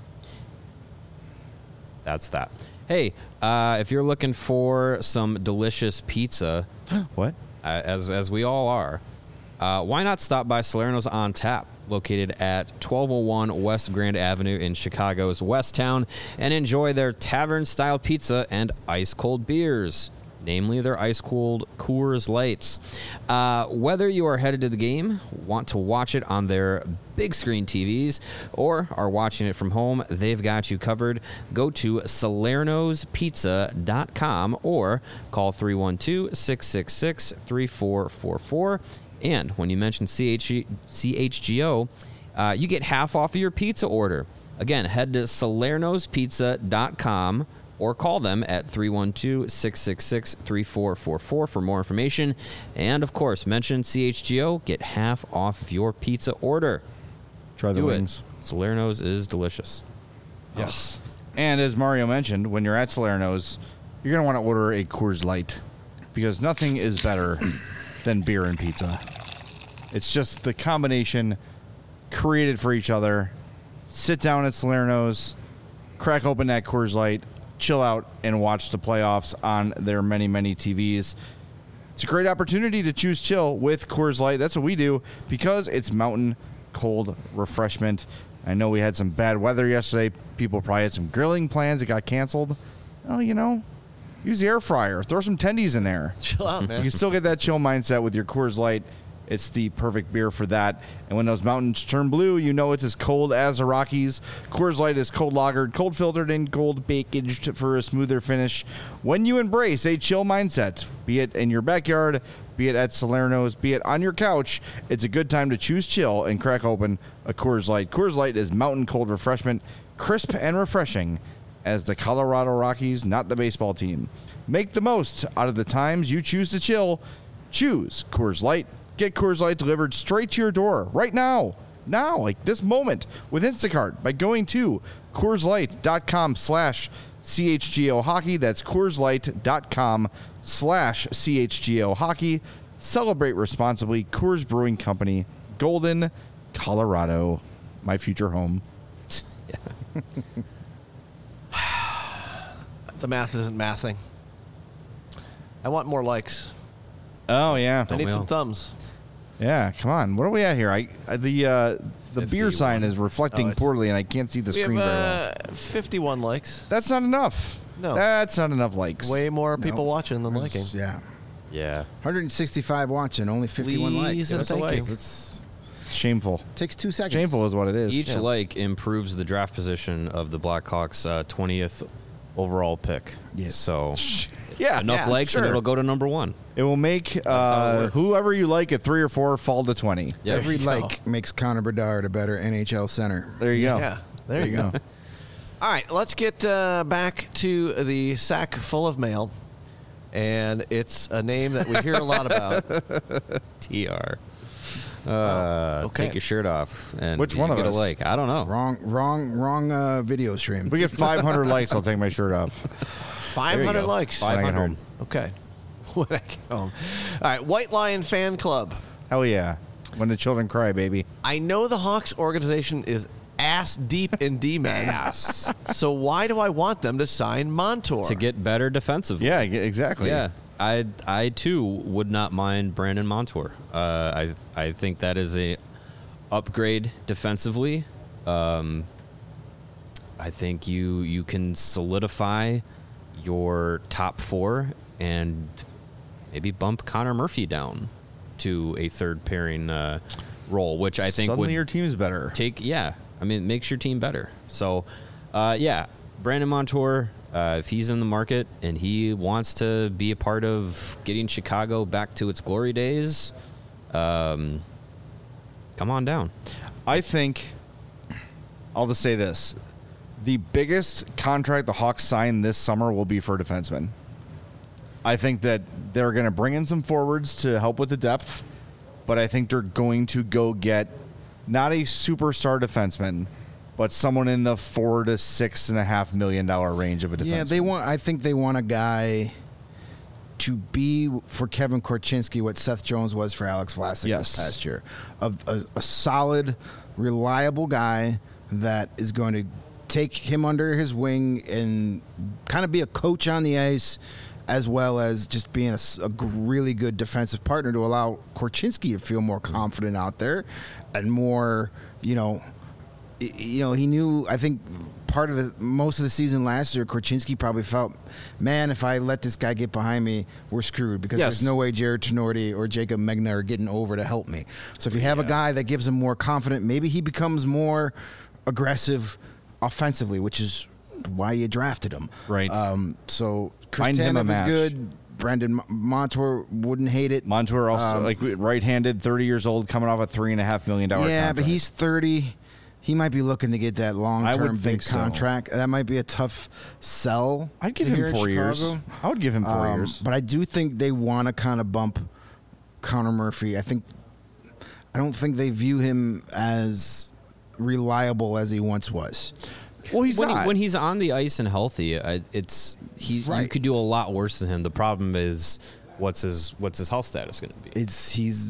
that's that. Hey, uh, if you're looking for some delicious pizza, What? uh, as as we all are, uh, why not stop by Salerno's on Tap, located at twelve oh one West Grand Avenue in Chicago's West Town, and enjoy their tavern-style pizza and ice-cold beers, namely their ice-cold Coors Lights. Uh, whether you are headed to the game, want to watch it on their big screen T Vs, or are watching it from home, they've got you covered. Go to salernos pizza dot com or call three one two, six six six, three four four four. And when you mention C H G O, uh, you get half off of your pizza order. Again, head to salernos pizza dot com or call them at three one two, six six six, three four four four for more information. And, of course, mention C H G O, get half off of your pizza order. Try the Do wings. it. Salerno's is delicious. Yes. And as Mario mentioned, when you're at Salerno's, you're going to want to order a Coors Light because nothing is better than beer and pizza. It's just the combination created for each other. Sit down at Salerno's, crack open that Coors Light, chill out, and watch the playoffs on their many, many T Vs. It's a great opportunity to choose chill with Coors Light. That's what we do because it's mountain cold refreshment. I know we had some bad weather yesterday. People probably had some grilling plans that got canceled. Well, you know, use the air fryer. Throw some tendies in there. Chill out, man. You can still get that chill mindset with your Coors Light. It's the perfect beer for that. And when those mountains turn blue, you know it's as cold as the Rockies. Coors Light is cold lagered, cold filtered, and cold packaged for a smoother finish. When you embrace a chill mindset, be it in your backyard, be it at Salerno's, be it on your couch, it's a good time to choose chill and crack open a Coors Light. Coors Light is mountain cold refreshment, crisp and refreshing as the Colorado Rockies, not the baseball team. Make the most out of the times you choose to chill. Choose Coors Light. Get Coors Light delivered straight to your door right now. Now, like this moment, with Instacart by going to CoorsLight.com slash CHGO Hockey. That's CoorsLight.com slash CHGO Hockey. Celebrate responsibly. Coors Brewing Company, Golden, Colorado, my future home. The math isn't mathing. I want more likes. Oh, yeah. I need we some all? thumbs. Yeah, come on. What are we at here? I, I the uh, the beer fifty-one. sign is reflecting Oh, it's- poorly, and I can't see the We screen have very well. uh, fifty-one likes. That's not enough. No. That's not enough likes. Way more people No. watching than liking. Yeah. Yeah. one hundred sixty-five watching, only fifty-one likes. Please and That's thank okay. you. It's Shameful. takes two seconds. Shameful is what it is. Each Yeah. like improves the draft position of the Blackhawks' uh, twentieth overall pick. Yes. So Yeah. enough yeah, likes sure. and it'll go to number one. It will make how it uh, works. whoever you like at three or four fall to twenty. Yeah. Every There you like makes Connor Bedard a better N H L center. There you go. Yeah. There, you go. All right, let's get uh, back to the sack full of mail. And it's a name that we hear a lot about. T R. Uh, okay. Take your shirt off and Which you one of get us? a like. I don't know. Wrong, wrong, wrong uh, video stream. If we get five hundred likes, I'll take my shirt off. five There you hundred go. likes. When I get five hundred. home. Okay. When I get home. All right, White Lion Fan Club. Hell yeah. When the children cry, baby. I know the Hawks organization is ass deep in D-men. Yes. So why do I want them to sign Montour? To get better defensively. Yeah, ge- exactly. Yeah. I I too would not mind Brandon Montour. Uh, I I think that is a upgrade defensively. Um, I think you you can solidify your top four and maybe bump Connor Murphy down to a third pairing uh, role, which I think Suddenly would your team's better. take yeah I mean it makes your team better. So uh, yeah, Brandon Montour, uh, if he's in the market and he wants to be a part of getting Chicago back to its glory days, um, come on down. I think, I'll just say this. The biggest contract the Hawks sign this summer will be for defensemen. I think that they're going to bring in some forwards to help with the depth, but I think they're going to go get not a superstar defenseman, but someone in the four to six and a half million dollar range of a defenseman. Yeah, they want. I think they want a guy to be for Kevin Korchinski what Seth Jones was for Alex Vlasic Yes. this past year. A, a, a solid, reliable guy that is going to take him under his wing and kind of be a coach on the ice, as well as just being a, a really good defensive partner to allow Korchinski to feel more confident out there and more, you know, you know, he knew, I think part of the, most of the season last year, Korchinski probably felt, man, if I let this guy get behind me, we're screwed because Yes. there's no way Jared Tenorti or Jacob Megna are getting over to help me. So if you have a guy that gives him more confident, maybe he becomes more aggressive offensively, which is why you drafted him. Right. Um, so Find him a Kristanov is match. good. Brendan Montour wouldn't hate it. Montour also, Um, like right-handed, thirty years old, coming off a three and a half million dollar Yeah, contract. but he's thirty. He might be looking to get that I long-term would big think so. contract. That might be a tough sell. I'd give to here him in four years. Chicago. I would give him four Um, years. But I do think they want to kind of bump Connor Murphy. I think I don't think they view him as reliable as he once was. Well, he's when, not. He, when he's on the ice and healthy, I, it's he. You Right. could do a lot worse than him. The problem is, what's his what's his health status going to be? It's he's.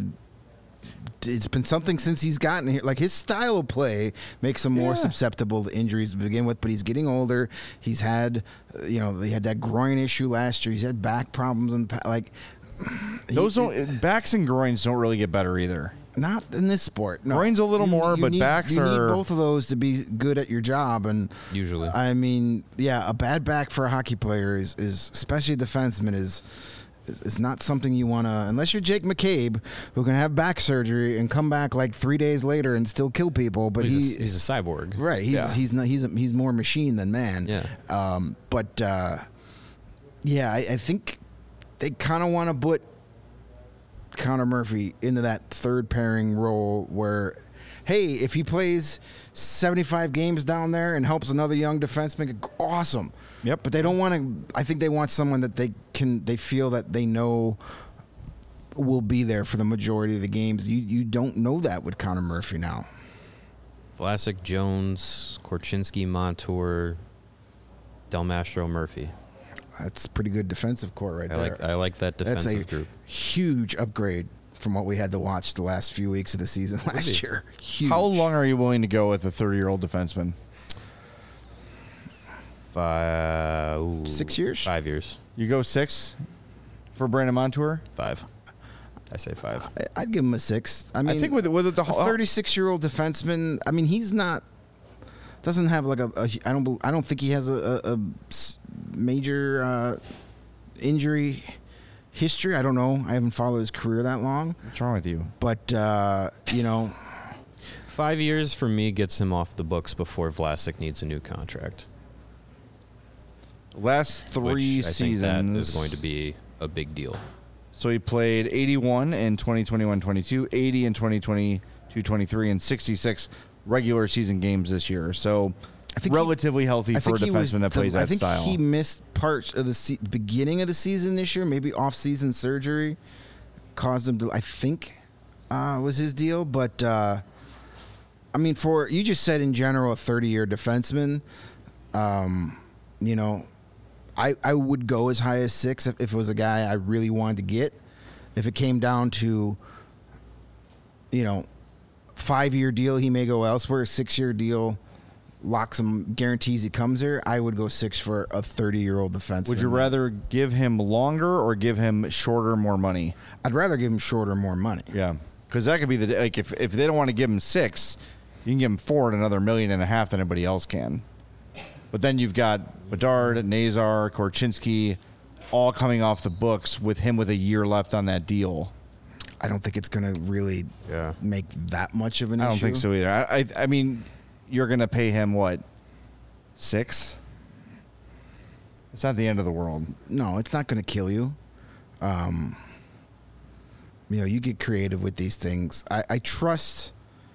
It's been something since he's gotten here. Like his style of play makes him more Yeah. susceptible to injuries to begin with. But he's getting older. He's had, uh, you know, he had that groin issue last year. He's had back problems and like Those he- don't backs and groins don't really get better either. Not in this sport. No. Groins a little more, but need, backs you are- need both of those to be good at your job. And Usually. I mean, yeah, a bad back for a hockey player is, is especially a defenseman, is is, is not something you want to. Unless you're Jake McCabe, who can have back surgery and come back like three days later and still kill people. But he's, he, a, he's a cyborg. right, he's Yeah. he's not, he's a, he's more machine than man. Yeah. Um, but uh, yeah, I, I think they kind of want to put Connor Murphy into that third pairing role where, hey, if he plays seventy-five games down there and helps another young defenseman, awesome. Yep. But they don't want to. I think they want someone that they can. They feel that they know will be there for the majority of the games. You you don't know that with Connor Murphy now. Vlasic, Jones, Korchinski, Montour, Del Mastro, Murphy. That's a pretty good defensive core right I there. like I like that That's defensive a group. huge upgrade from what we had to watch the last few weeks of the season last be. year. Huge. How long are you willing to go with a thirty-year-old defenseman? Five, ooh, Six years? Five years. You go six for Brandon Montour? Five. I say five. I- I'd give him a six. I mean, I think with with the a thirty-six-year-old defenseman. I mean, he's not doesn't have like a. a I don't. bel- I don't think he has a, a, a s- major uh, injury history. I don't know. I haven't followed his career that long, What's wrong with you? but uh, you know, Five years for me gets him off the books before Vlasic needs a new contract. Last three which I seasons think that is going to be a big deal. So he played eighty-one in twenty twenty-one twenty-two, eighty in twenty twenty-two twenty-three, and sixty-six regular season games this year. So I think he- relatively healthy I for a think he was defenseman that the- plays I that think style. he missed parts of the se- beginning of the season this year. Maybe off-season surgery caused him to. I think uh, was his deal, but uh, I mean, for you just said in general, a thirty-year defenseman. Um, you know, I I would go as high as six if, if it was a guy I really wanted to get. If it came down to, you know, five-year deal, he may go elsewhere. Six-year deal locks him, guarantees he comes here. I would go six for a thirty-year-old defenseman. Would you rather give him longer or give him shorter, more money? I'd rather give him shorter, more money. Yeah, because that could be the like if if they don't want to give him six, you can give him four at another million and a half than anybody else can. But then you've got Bedard, Nazar, Korchinski, all coming off the books with him with a year left on that deal. I don't think it's going to really Yeah. make that much of an I issue. don't think so either. I I, I mean, you're going to pay him what, six? It's not the end of the world. No, it's not going to kill you. Um, you know, you get creative with these things. I, I trust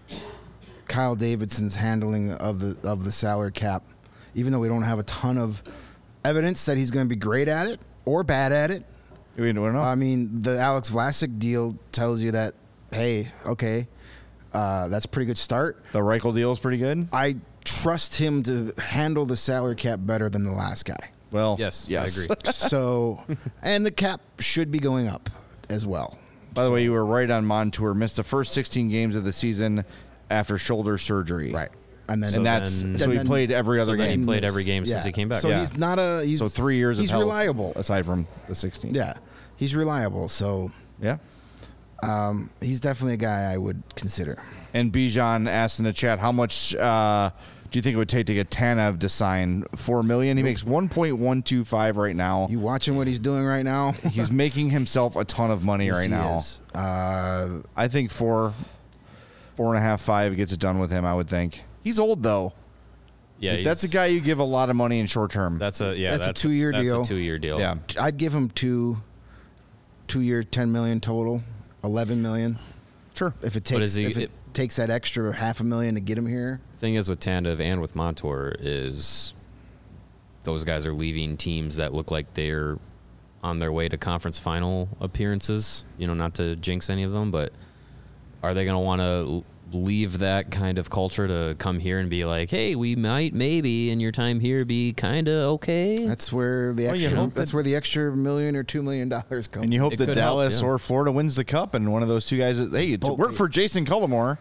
Kyle Davidson's handling of the of the salary cap, even though we don't have a ton of evidence that he's going to be great at it or bad at it. We don't know. I mean, the Alex Vlasic deal tells you that, hey, okay, uh, that's a pretty good start. The Reichel deal is pretty good. I trust him to handle the salary cap better than the last guy. Well, Yes, yes. I agree. So, and the cap should be going up as well. By the way, you were right on Montour. Missed the first sixteen games of the season after shoulder surgery. Right. And then And that's then- so and he then- played every other So then game. he played miss. every game since he came back. So Yeah. he's not a he's So three years. He's of health, reliable. aside from the sixteen. Yeah, he's reliable. So yeah. um, he's definitely a guy I would consider. And Bijan asked in the chat, how much uh, do you think it would take to get Tanev to sign four million? He makes one point one two five right now. You watching what he's doing right now? He's making himself a ton of money Yes, right he now. is. Uh, I think four, four and a half, five gets it done with him. I would think he's old though. Yeah, Like, that's a he's- guy you give a lot of money in short term. That's a yeah. That's a two-year that's deal. A two-year deal. Yeah. I'd give him two, two year, ten million total, eleven million. Sure. If it But takes is he- if it, it- takes that extra half a million to get him here. Thing is with Tanev and with Montour is those guys are leaving teams that look like they're on their way to conference final appearances. You know, not to jinx any of them, but are they going to want to leave that kind of culture to come here and be like, hey, we might maybe in your time here be kind of okay? That's where the Well, you extra. hope That's that- where the extra million or two million dollars comes. And you hope It that could help, Dallas yeah. or Florida wins the cup, and one of those two guys. Hey, Both work teams. for Jason Cullimore.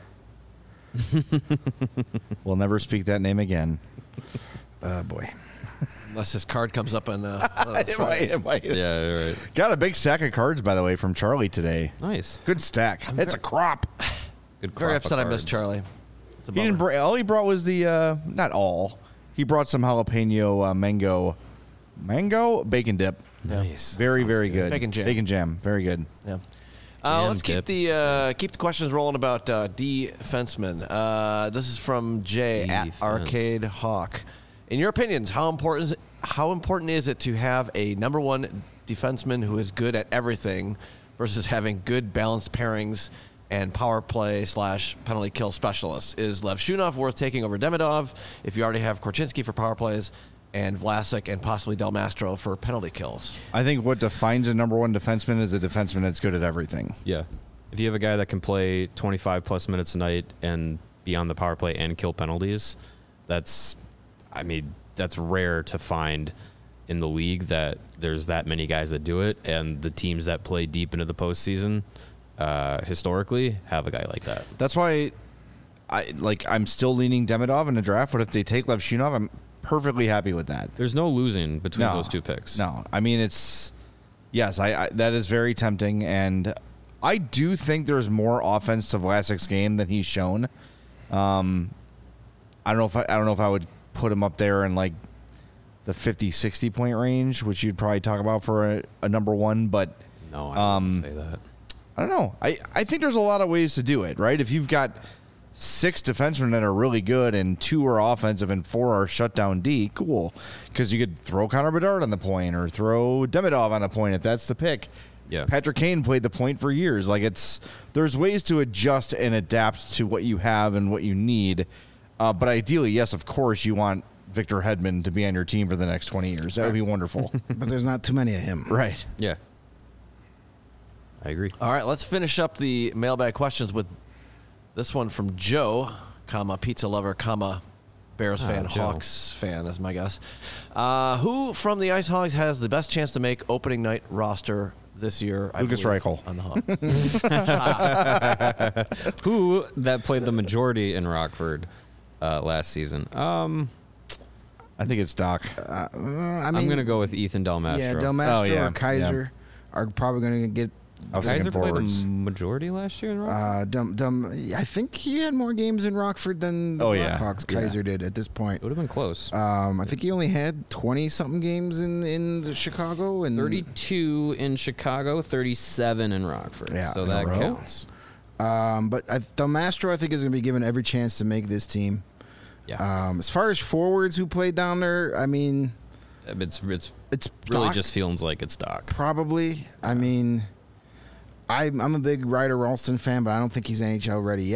We'll never speak that name again. Oh boy. Unless his card comes up on uh, one of the It might- it might. Yeah, right. Got a big stack of cards, by the way, from Charlie today. Nice. Good stack. It's a crop. Good Very crop of upset I missed cards. Charlie. It's a He didn't bummer. bring, all he brought was the uh, not all. He brought some jalapeno uh, mango, mango bacon dip. Nice. Very Sounds very good. Bacon jam. Bacon jam. Very good. Yeah. Uh, Jam let's keep dip. the uh, keep the questions rolling about uh, defensemen. Uh, this is from Jay at Defense. Arcade Hawk. In your opinions, how important is, how important is it to have a number one defenseman who is good at everything versus having good balanced pairings and power play slash penalty kill specialists? Is Lev Shunov worth taking over Demidov if you already have Korchinski for power plays and Vlasic and possibly Del Mastro for penalty kills? I think what defines a number one defenseman is a defenseman that's good at everything. Yeah. If you have a guy that can play twenty-five plus minutes a night and be on the power play and kill penalties, that's, I mean, that's rare to find in the league that there's that many guys that do it. And the teams that play deep into the postseason uh, historically have a guy like that. That's why I like I'm still leaning Demidov in the draft, but if they take Lev Shunov, I'm perfectly happy with that. There's no losing between No. those two picks. No, I mean it's yes, I, I that is very tempting, and I do think there's more offense to Vlasic's game than he's shown. Um, I don't know if I, I don't know if I would put him up there in like the fifty, sixty point range, which you'd probably talk about for a, a number one, but No, I Um, wouldn't say that. I don't know. I, I think there's a lot of ways to do it, right? If you've got six defensemen that are really good and two are offensive and four are shutdown D, cool. Because you could throw Connor Bedard on the point or throw Demidov on a point if that's the pick. Yeah. Patrick Kane played the point for years. Like it's there's ways to adjust and adapt to what you have and what you need. Uh, but ideally, yes, of course, you want Victor Hedman to be on your team for the next twenty years. That would be wonderful. But there's not too many of him. Right. Yeah. I agree. All right, let's finish up the mailbag questions with this one from Joe, comma pizza lover, comma Bears Ah, fan, Joe. Hawks fan is my guess. Uh, who from the Ice Hogs has the best chance to make opening night roster this year? I Lucas believe, Reichel. on the Hawks. Who that played the majority in Rockford uh, last season? Um, I think it's Doc. Uh, I mean, I'm going to go with Ethan Del Mastro. Yeah, Del Mastro Oh, yeah, or Kaiser are probably going to get. I was Kaiser thinking played forwards. the majority last year in Rockford? Uh, Dum, Dum, I think he had more games in Rockford than the Oh, yeah. Blackhawks. Yeah. Kaiser did at this point. It would have been close. Um, I think he only had twenty something games in in the Chicago and thirty-two in Chicago, thirty-seven in Rockford. Yeah, so that so- counts. Um, but I, Del Mastro, I think, is going to be given every chance to make this team. Yeah. Um, as far as forwards who played down there, I mean, it's it's it's really Doc, just feels like it's Doc. probably. I mean, I'm I'm a big Ryder Ralston fan, but I don't think he's N H L ready yet.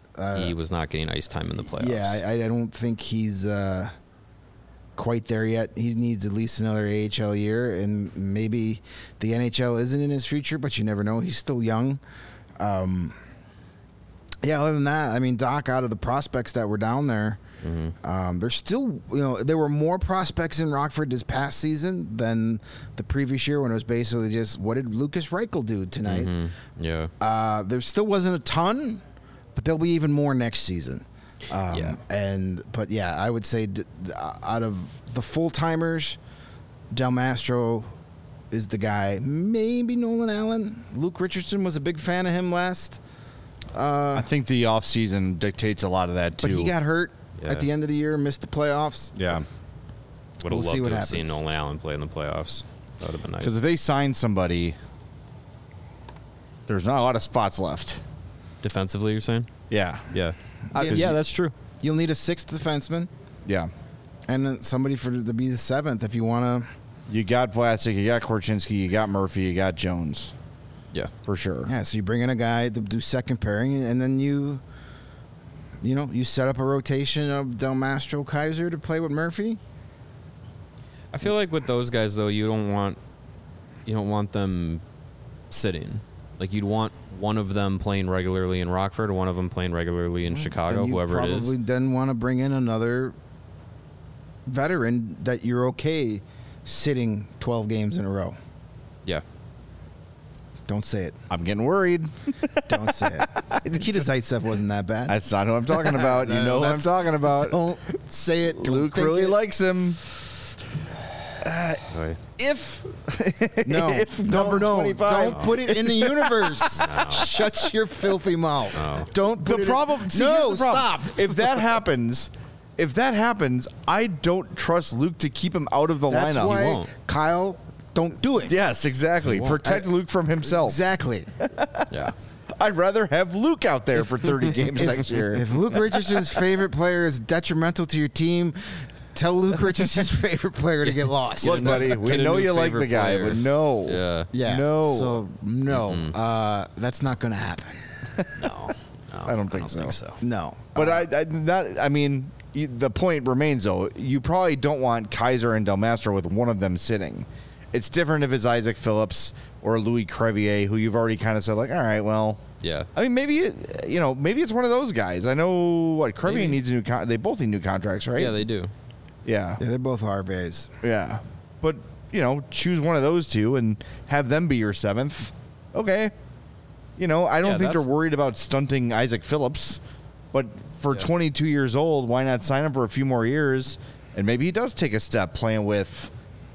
Uh, he was not getting ice time in the playoffs. Yeah, I, I don't think he's uh, quite there yet. He needs at least another A H L year, and maybe the N H L isn't in his future, but you never know. He's still young. Um, yeah, other than that, I mean, Doc, out of the prospects that were down there, Mm-hmm. um, there's still, you know, there were more prospects in Rockford this past season than the previous year when it was basically just, what did Lucas Reichel do tonight? Mm-hmm. Yeah. Uh, there still wasn't a ton, but there'll be even more next season. Um, Yeah. And but yeah, I would say d- d- out of the full timers, Del Mastro is the guy. Maybe Nolan Allen. Luke Richardson was a big fan of him last, I think the offseason dictates a lot of that too. but he got hurt Yeah. at the end of the year, missed the playoffs. yeah. Would have We'll loved see what to have seen happens. Nolan Allen play in the playoffs. That would have been nice. Because if they sign somebody, there's not a lot of spots left. Defensively, you're saying? Yeah. Yeah. Uh, Yeah. yeah, that's true. You'll need a sixth defenseman Yeah. and then somebody for to be the seventh if you want to. You got Vlasic, you got Korchinski, you got Murphy, you got Jones, Yeah. for sure. Yeah, so you bring in a guy to do second pairing, and then you, you know, you set up a rotation of Del Mastro, Kaiser to play with Murphy. I feel like with those guys though, you don't want you don't want them sitting. Like you'd want one of them playing regularly in Rockford, or one of them playing regularly in Chicago, Then you whoever it probably is. then want to bring in another veteran that you're okay sitting twelve games in a row. Yeah. Don't say it. I'm getting worried. Don't say it. Nikita Zaitsev wasn't that bad. That's not who I'm talking about. You No, know who I'm that's- talking about. Don't say it. Don't Luke think really it. likes him. Right. If No, if no, number no, twenty-five. don't put it in the universe. Shut your filthy mouth. No. Don't. The Put it problem. In, see, no, here's the problem. stop. If that happens, if that happens, I don't trust Luke to keep him out of the That's lineup. why, won't. Kyle, don't do it. Yes, exactly. He won't. Protect Luke from himself. Exactly. Yeah. I'd rather have Luke out there for thirty games next year. If Luke Richardson's favorite player is detrimental to your team, tell Luke Richardson's favorite player to get lost. Look, buddy, we Get a know new you like favorite the guy, player. but no. Yeah. yeah. No. So no, uh, that's not going to happen. No. No. I don't think I don't so. think so. No. But Uh, I, I, not, I mean, you, the point remains though. You probably don't want Kaiser and Del Mastro with one of them sitting. It's different if it's Isaac Phillips or Louis Crevier, who you've already kind of said like, all right, well, Yeah. I mean, maybe it, you know, maybe it's one of those guys. I know what Crevier Maybe. needs a new. Con- they both need new contracts, right? Yeah, they do. yeah, yeah, they're both R V As. yeah. But you know, choose one of those two and have them be your seventh. Okay. You know, I don't Yeah, think they're that's- worried about stunting Isaac Phillips, but for Yeah. twenty-two years old, why not sign him for a few more years? And maybe he does take a step playing with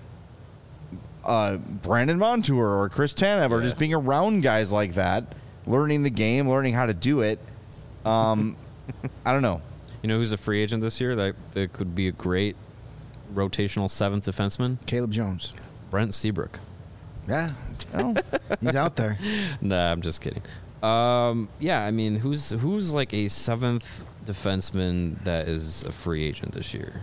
uh, Brandon Montour or Chris Tanev or Yeah. just being around guys like that, learning the game, learning how to do it. Um, I don't know. You know who's a free agent this year that, that could be a great rotational seventh defenseman? Caleb Jones. Brent Seabrook. Yeah, Oh, he's out there. Nah, I'm just kidding. Um, yeah, I mean, who's who's like a seventh defenseman that is a free agent this year?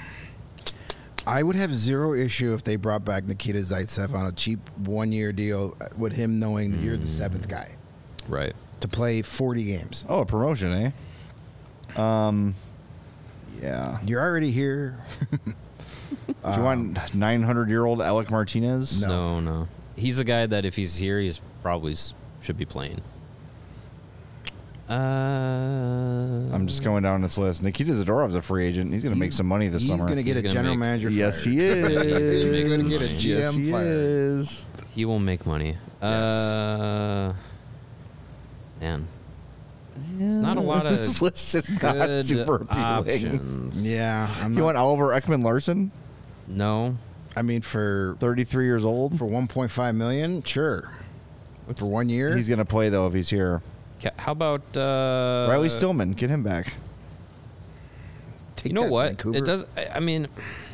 I would have zero issue if they brought back Nikita Zaitsev on a cheap one-year deal with him knowing that you're the seventh guy Right. to play forty games. oh, a promotion, eh? Um, yeah. You're already here. Do you want nine hundred year old Alec Martinez? No. no, He's a guy that if he's here, he's probably s- should be playing. Uh, I'm just going down this list. Nikita Zadorov's a free agent. He's going to make He's- some money this He's summer. going to get He's a gonna general make- manager yes, fired. he is. He's gonna get a G M yes, he fired. is. He will make money. Uh, man, it's not a lot of This list is not good super appealing. options. Yeah, I'm You not, want Oliver Ekman Larson, No. I mean, for thirty-three years old? for one point five million, sure. For one year, He's going to play, though, if he's here. Ca- How about uh, Riley Stillman, get him back. take You know that, what? Vancouver. It does. I I mean,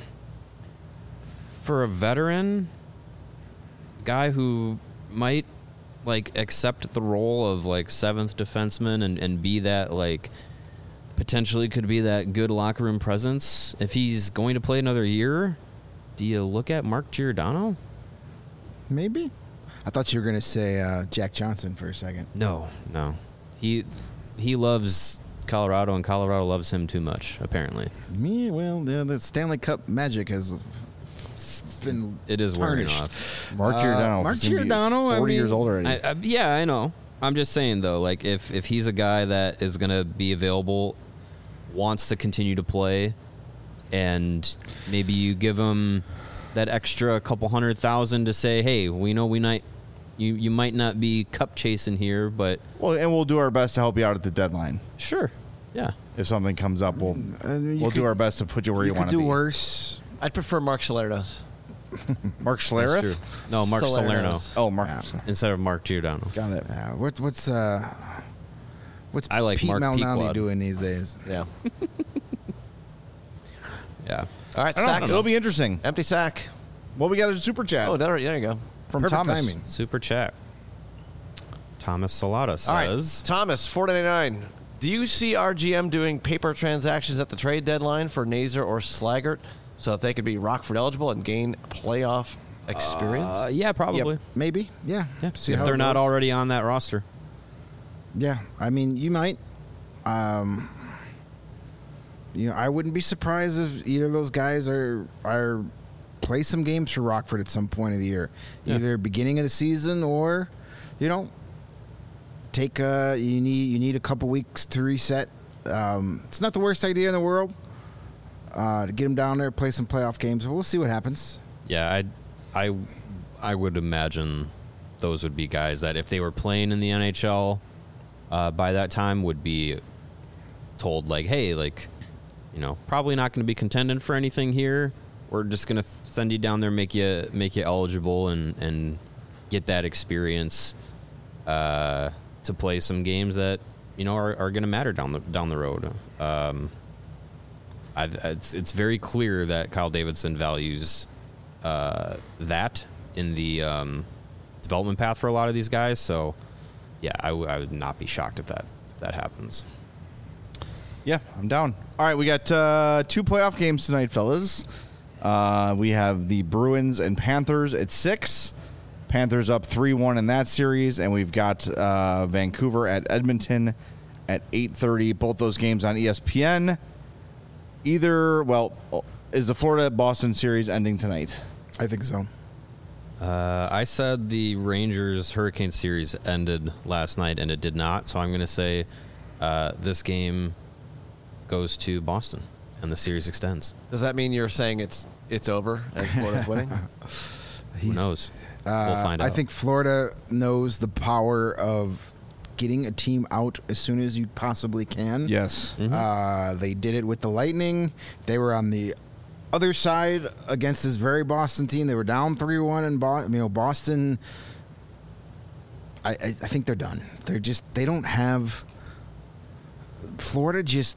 for a veteran guy who might like accept the role of like seventh defenseman and, and be that like potentially could be that good locker room presence. If he's going to play another year, do you look at Mark Giordano? Maybe. I thought you were going to say uh, Jack Johnson for a second. No, no. He he loves Colorado, and Colorado loves him too much, apparently. Me, well, the, the Stanley Cup magic has been It is wearing tarnished. off. Mark Uh, Giordano. Mark seems to be Giordano, I forty years mean- old already. I, I, yeah, I know. I'm just saying though, like if if he's a guy that is gonna be available, wants to continue to play, and maybe you give him that extra couple hundred thousand to say, hey, we know we might, you you might not be cup chasing here, but well, and we'll do our best to help you out at the deadline. sure, yeah. If something comes up, we'll I mean, you we'll do could- our best to put you where you, You want could to do be. worse. I'd prefer Mark Salernos. Mark That's Schlereth? true. No, Mark Salerno Oh, Mark. Yeah. instead of Mark Giordano. Got it. Yeah, what, what's uh, what's I like Pete Mark Malnati Pequod. doing these days? Yeah. Yeah. All right, I don't sack. know. It'll be interesting. Empty sack. Well, we got a super chat Oh, there, there you go. from Perfect Thomas. timing. Super chat. Thomas Salata says. All right, Thomas, four ninety-nine. Do you see R G M doing paper transactions at the trade deadline for Nazer or Slaggert so that they could be Rockford eligible and gain playoff experience? Uh, yeah, probably. Maybe, yeah. Yeah. See if how they're it not goes. already on that roster. Yeah, I mean, you might. Um, you know, I wouldn't be surprised if either of those guys are are play some games for Rockford at some point of the year, Yeah. either beginning of the season or, you know, take a you need you need a couple weeks to reset. Um, it's not the worst idea in the world uh, to get them down there, play some playoff games. We'll see what happens. Yeah, I, I, I would imagine those would be guys that if they were playing in the N H L uh, by that time would be told like, hey, like, you know, probably not going to be contending for anything here. We're just going to th- send you down there, make you make you eligible, and and get that experience uh, to play some games that you know are, are going to matter down the down the road. Um, I, it's it's very clear that Kyle Davidson values uh, that in the um, development path for a lot of these guys. So, yeah, I, w- I would not be shocked if that if that happens. Yeah, I'm down. All right, we got uh, two playoff games tonight, fellas. Uh, we have the Bruins and Panthers at six. Panthers up three one in that series, and we've got uh, Vancouver at Edmonton at eight thirty. Both those games on E S P N. Either, well, is the Florida-Boston series ending tonight? I think so. Uh, I said the Rangers Hurricane series ended last night, and it did not. So I'm going to say uh, this game goes to Boston, and the series extends. Does that mean you're saying it's it's over and Florida's winning? Who knows? Uh, we'll find I out. think Florida knows the power of getting a team out as soon as you possibly can. Yes. Uh, they did it with the Lightning. They were on the other side against this very Boston team. They were down three one in Boston. You know, Boston. I, I I think they're done. They're just they don't have. Florida just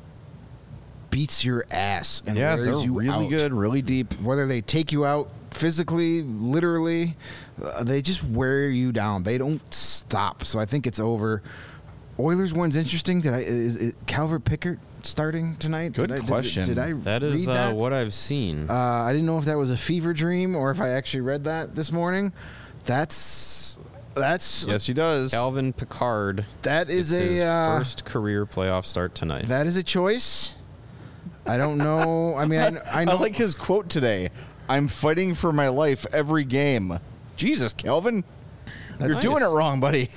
beats your ass and Yeah, they're wears you really out. good, really deep. Whether they take you out physically, literally, uh, they just wear you down. They don't stop. So I think it's over. Oilers one's interesting. Did I is, is Calvert Pickard starting tonight? Good Did I- did- question. Did, I that is read uh, that? what I've seen. Uh, I didn't know if that was a fever dream or if I actually read that this morning. That's that's Yes, he does. Calvin Pickard. that is It's his a uh, first career playoff start tonight. that is a choice. I don't know. I mean, I, I I know. like his quote today. I'm fighting for my life every game. Jesus, Calvin. You're That's doing it wrong, buddy.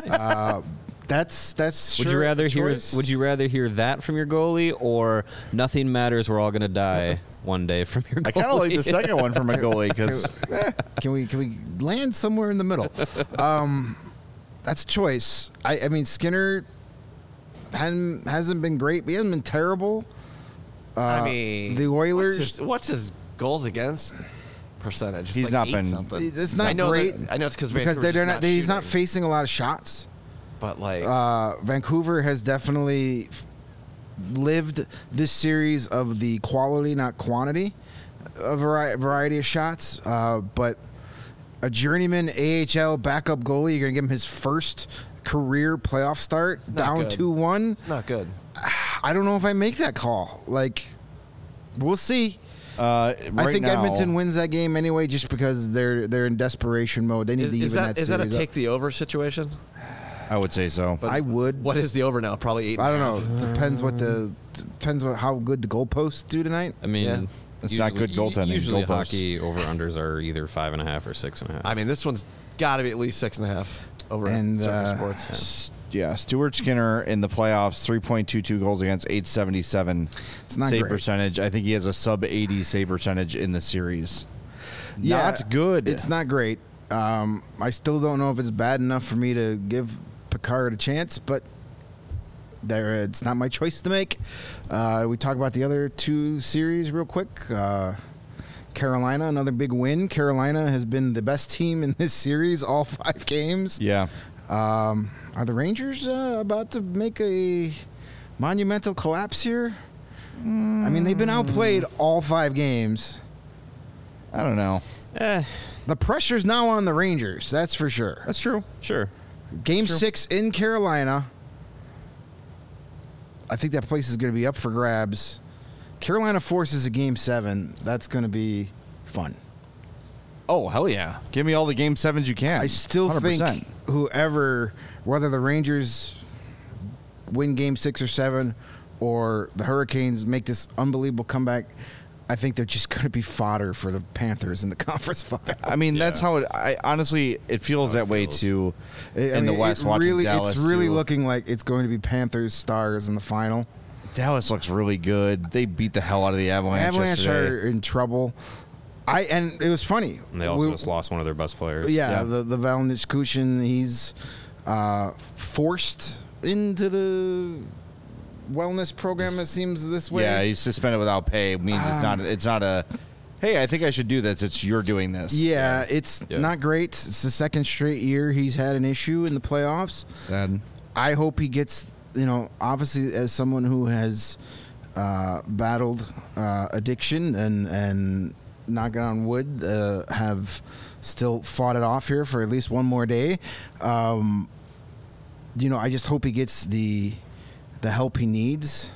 that's that's. would sure you a rather hear choice. Would you rather hear that from your goalie, or nothing matters, we're all gonna die one day from your goalie? I kind of like the second one for my goalie because Can we can we land somewhere in the middle? Um, that's a choice. I, I mean, Skinner hadn't, hasn't been great, but he hasn't been terrible. Uh, I mean, the Oilers. What's his, what's his goals against percentage? It's He's like not eight been- Something. It's not I know great That, I know it's because because they're, they're not. he's not shooting, facing a lot of shots. But like, Uh, Vancouver has definitely f- lived this series of the quality, not quantity, a vari- variety of shots. Uh, but a journeyman A H L backup goalie, you're going to give him his first career playoff start, not down good. two one. it's not good. I don't know if I make that call. Like, we'll see. uh, right I think now, Edmonton wins that game anyway, just because they're they're in desperation mode. They need Is, to is even that that is that a series up. take the over situation? I would say so. But I would. What is the over now? Probably eight. I don't know. Depends what the depends what how good the goalposts do tonight. I mean, Yeah. It's not good goaltending, Usually, goalposts. hockey over unders are either five and a half or six and a half. I mean, this one's got to be at least six and a half over And, Surfer uh, Sports. S- Yeah, Stuart Skinner in the playoffs, three point two two goals against, eight seventy-seven It's not save great. percentage. I think he has a sub eighty save percentage in the series. Yeah, Not good. It's not great. Um, I still don't know if it's bad enough for me to give Picard a chance, but there it's not my choice to make. Uh, we talk about the other two series real quick. Uh, Carolina, another big win. Carolina has been the best team in this series all five games. Yeah. Um, are the Rangers uh, about to make a monumental collapse here? I mean, they've been outplayed all five games. I don't know. eh, The pressure's now on the Rangers, that's for sure. That's true. sure. Game Sure. six in Carolina. I think that place is going to be up for grabs. Carolina forces a game seven. That's going to be fun. Oh, hell yeah. Give me all the game sevens you can. I still one hundred percent. think whoever, whether the Rangers win game six or seven or the Hurricanes make this unbelievable comeback, I think they're just going to be fodder for the Panthers in the conference final. I mean, that's Yeah. how it. I honestly, it feels How it that way feels. too. I in the mean, West, it watching really, Dallas, it's really too. looking like it's going to be Panthers Stars in the final. Dallas looks really good. They beat the hell out of the Avalanche. Avalanche yesterday. are in trouble. I and it was funny. And they also We- just lost one of their best players. Yeah, Yeah. the the Valnich Kushin, he's uh, forced into the wellness program. It seems this way. Yeah, he's suspended without pay. It means it's not. Um, It's not a. Hey, I think I should do this. It's you're doing this. Yeah, it's Yeah. not great. It's the second straight year he's had an issue in the playoffs. Sad. I hope he gets, you know, obviously as someone who has uh, battled uh, addiction and and knocking on wood, uh, have still fought it off here for at least one more day. Um, you know, I just hope he gets the the help he needs.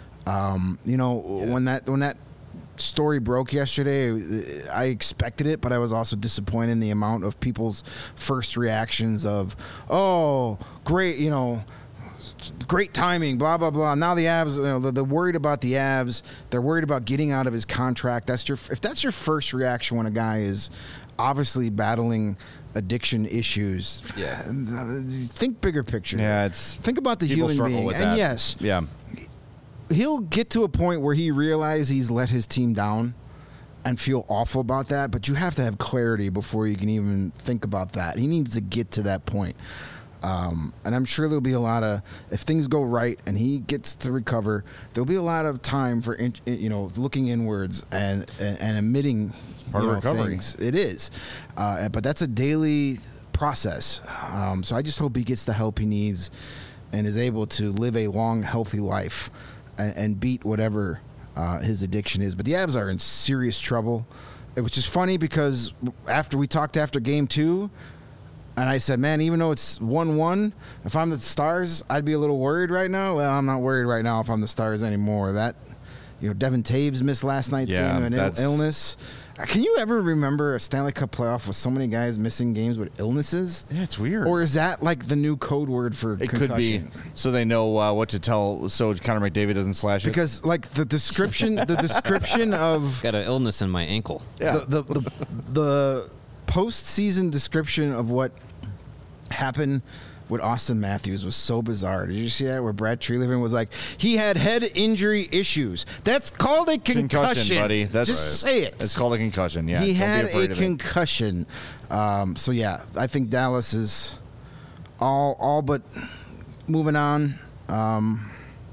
Um, you know, when that when that story broke yesterday, I expected it, but I was also disappointed in the amount of people's first reactions of, "Oh, great, you know, great timing, blah blah blah." Now the Avs, you know, they're, they're worried about the Avs. They're worried about getting out of his contract. That's your if that's your first reaction when a guy is obviously battling addiction issues. Yeah. Think bigger picture. Yeah, it's Think about the people human struggle being. with And that. yes, Yeah. he'll get to a point where he realizes he's let his team down and feel awful about that, but you have to have clarity before you can even think about that. He needs to get to that point. Um, and I'm sure there'll be a lot of, if things go right and he gets to recover, there'll be a lot of time for, in, you know, looking inwards and and, and admitting part you of know, recovery. things. It is. Uh, but that's a daily process. Um, so I just hope he gets the help he needs and is able to live a long, healthy life and, and beat whatever uh, his addiction is. But the Avs are in serious trouble. It was just funny because after we talked after game two, and I said, man, even though it's one one, if I'm the Stars, I'd be a little worried right now. Well, I'm not worried right now if I'm the Stars anymore. That, you know, Devin Taves missed last night's Yeah, game of an Ill- that's- illness. Can you ever remember a Stanley Cup playoff with so many guys missing games with illnesses? Yeah, it's weird. Or is that like the new code word for it concussion? could be so they know uh, what to tell. So Connor McDavid doesn't slash it. Because like the description, the description of Got an illness in my ankle. Yeah. the, the, the, the postseason description of what happened with Austin Matthews was so bizarre. Did you see that? Where Brad Treliving was like, he had head injury issues. That's called a concussion, concussion, buddy. That's just right. say it. It's called a concussion. Yeah, he don't be had afraid a of it. concussion. Um, so yeah, I think Dallas is all all but moving on. Um,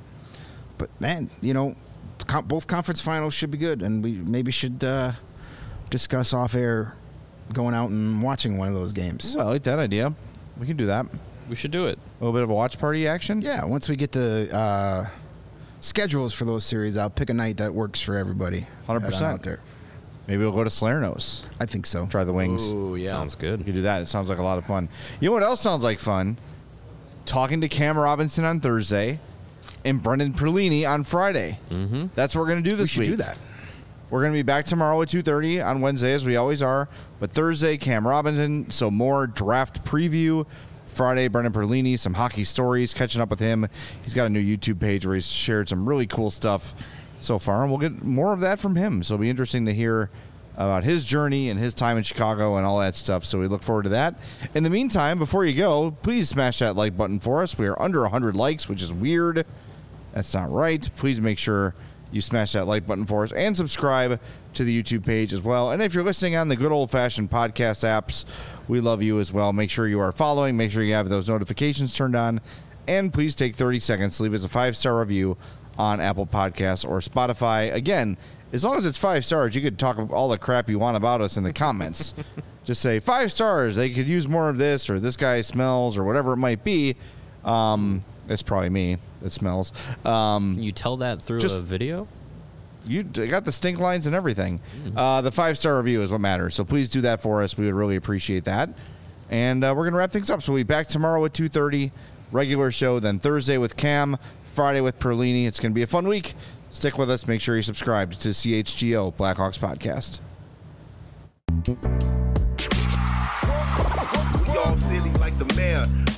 but man, you know, com- both conference finals should be good, and we maybe should uh, discuss off air going out and watching one of those games. Well, I like that idea. We can do that. We should do it. A little bit of a watch party action. Yeah, once we get the uh, schedules for those series, I'll pick a night that works for everybody. one hundred Head on percent. out there. Maybe we'll go to Salerno's. I think so. Try the wings. Ooh, yeah. Sounds good. We can do that. It sounds like a lot of fun. You know what else sounds like fun? Talking to Cam Robinson on Thursday and Brendan Perlini on Friday. Mm-hmm. That's what we're going to do We this should week. do that. We're going to be back tomorrow at two thirty on Wednesday, as we always are. But Thursday, Cam Robinson. So more draft preview, Friday, Brendan Perlini, some hockey stories, catching up with him. He's got a new YouTube page where he's shared some really cool stuff so far, and we'll get more of that from him. So it'll be interesting to hear about his journey and his time in Chicago and all that stuff. So we look forward to that. In the meantime, before you go, please smash that like button for us. We are under one hundred likes, which is weird. That's not right. Please make sure you smash that like button for us and subscribe to the YouTube page as well. And if you're listening on the good old-fashioned podcast apps, we love you as well. Make sure you are following. Make sure you have those notifications turned on. And please take thirty seconds to leave us a five-star review on Apple Podcasts or Spotify. Again, as long as it's five stars, you could talk all the crap you want about us in the comments. Just say, five stars, they could use more of this, or this guy smells, or whatever it might be. Um, it's probably me that smells. Um, Can you tell that through just- a video? You d- got the stink lines and everything. Uh, the five-star review is what matters. So please do that for us. We would really appreciate that. And uh, we're going to wrap things up. So we'll be back tomorrow at two thirty, regular show. Then Thursday with Cam, Friday with Perlini. It's going to be a fun week. Stick with us. Make sure you subscribe to C H G O Blackhawks Podcast. We all silly like the mayor.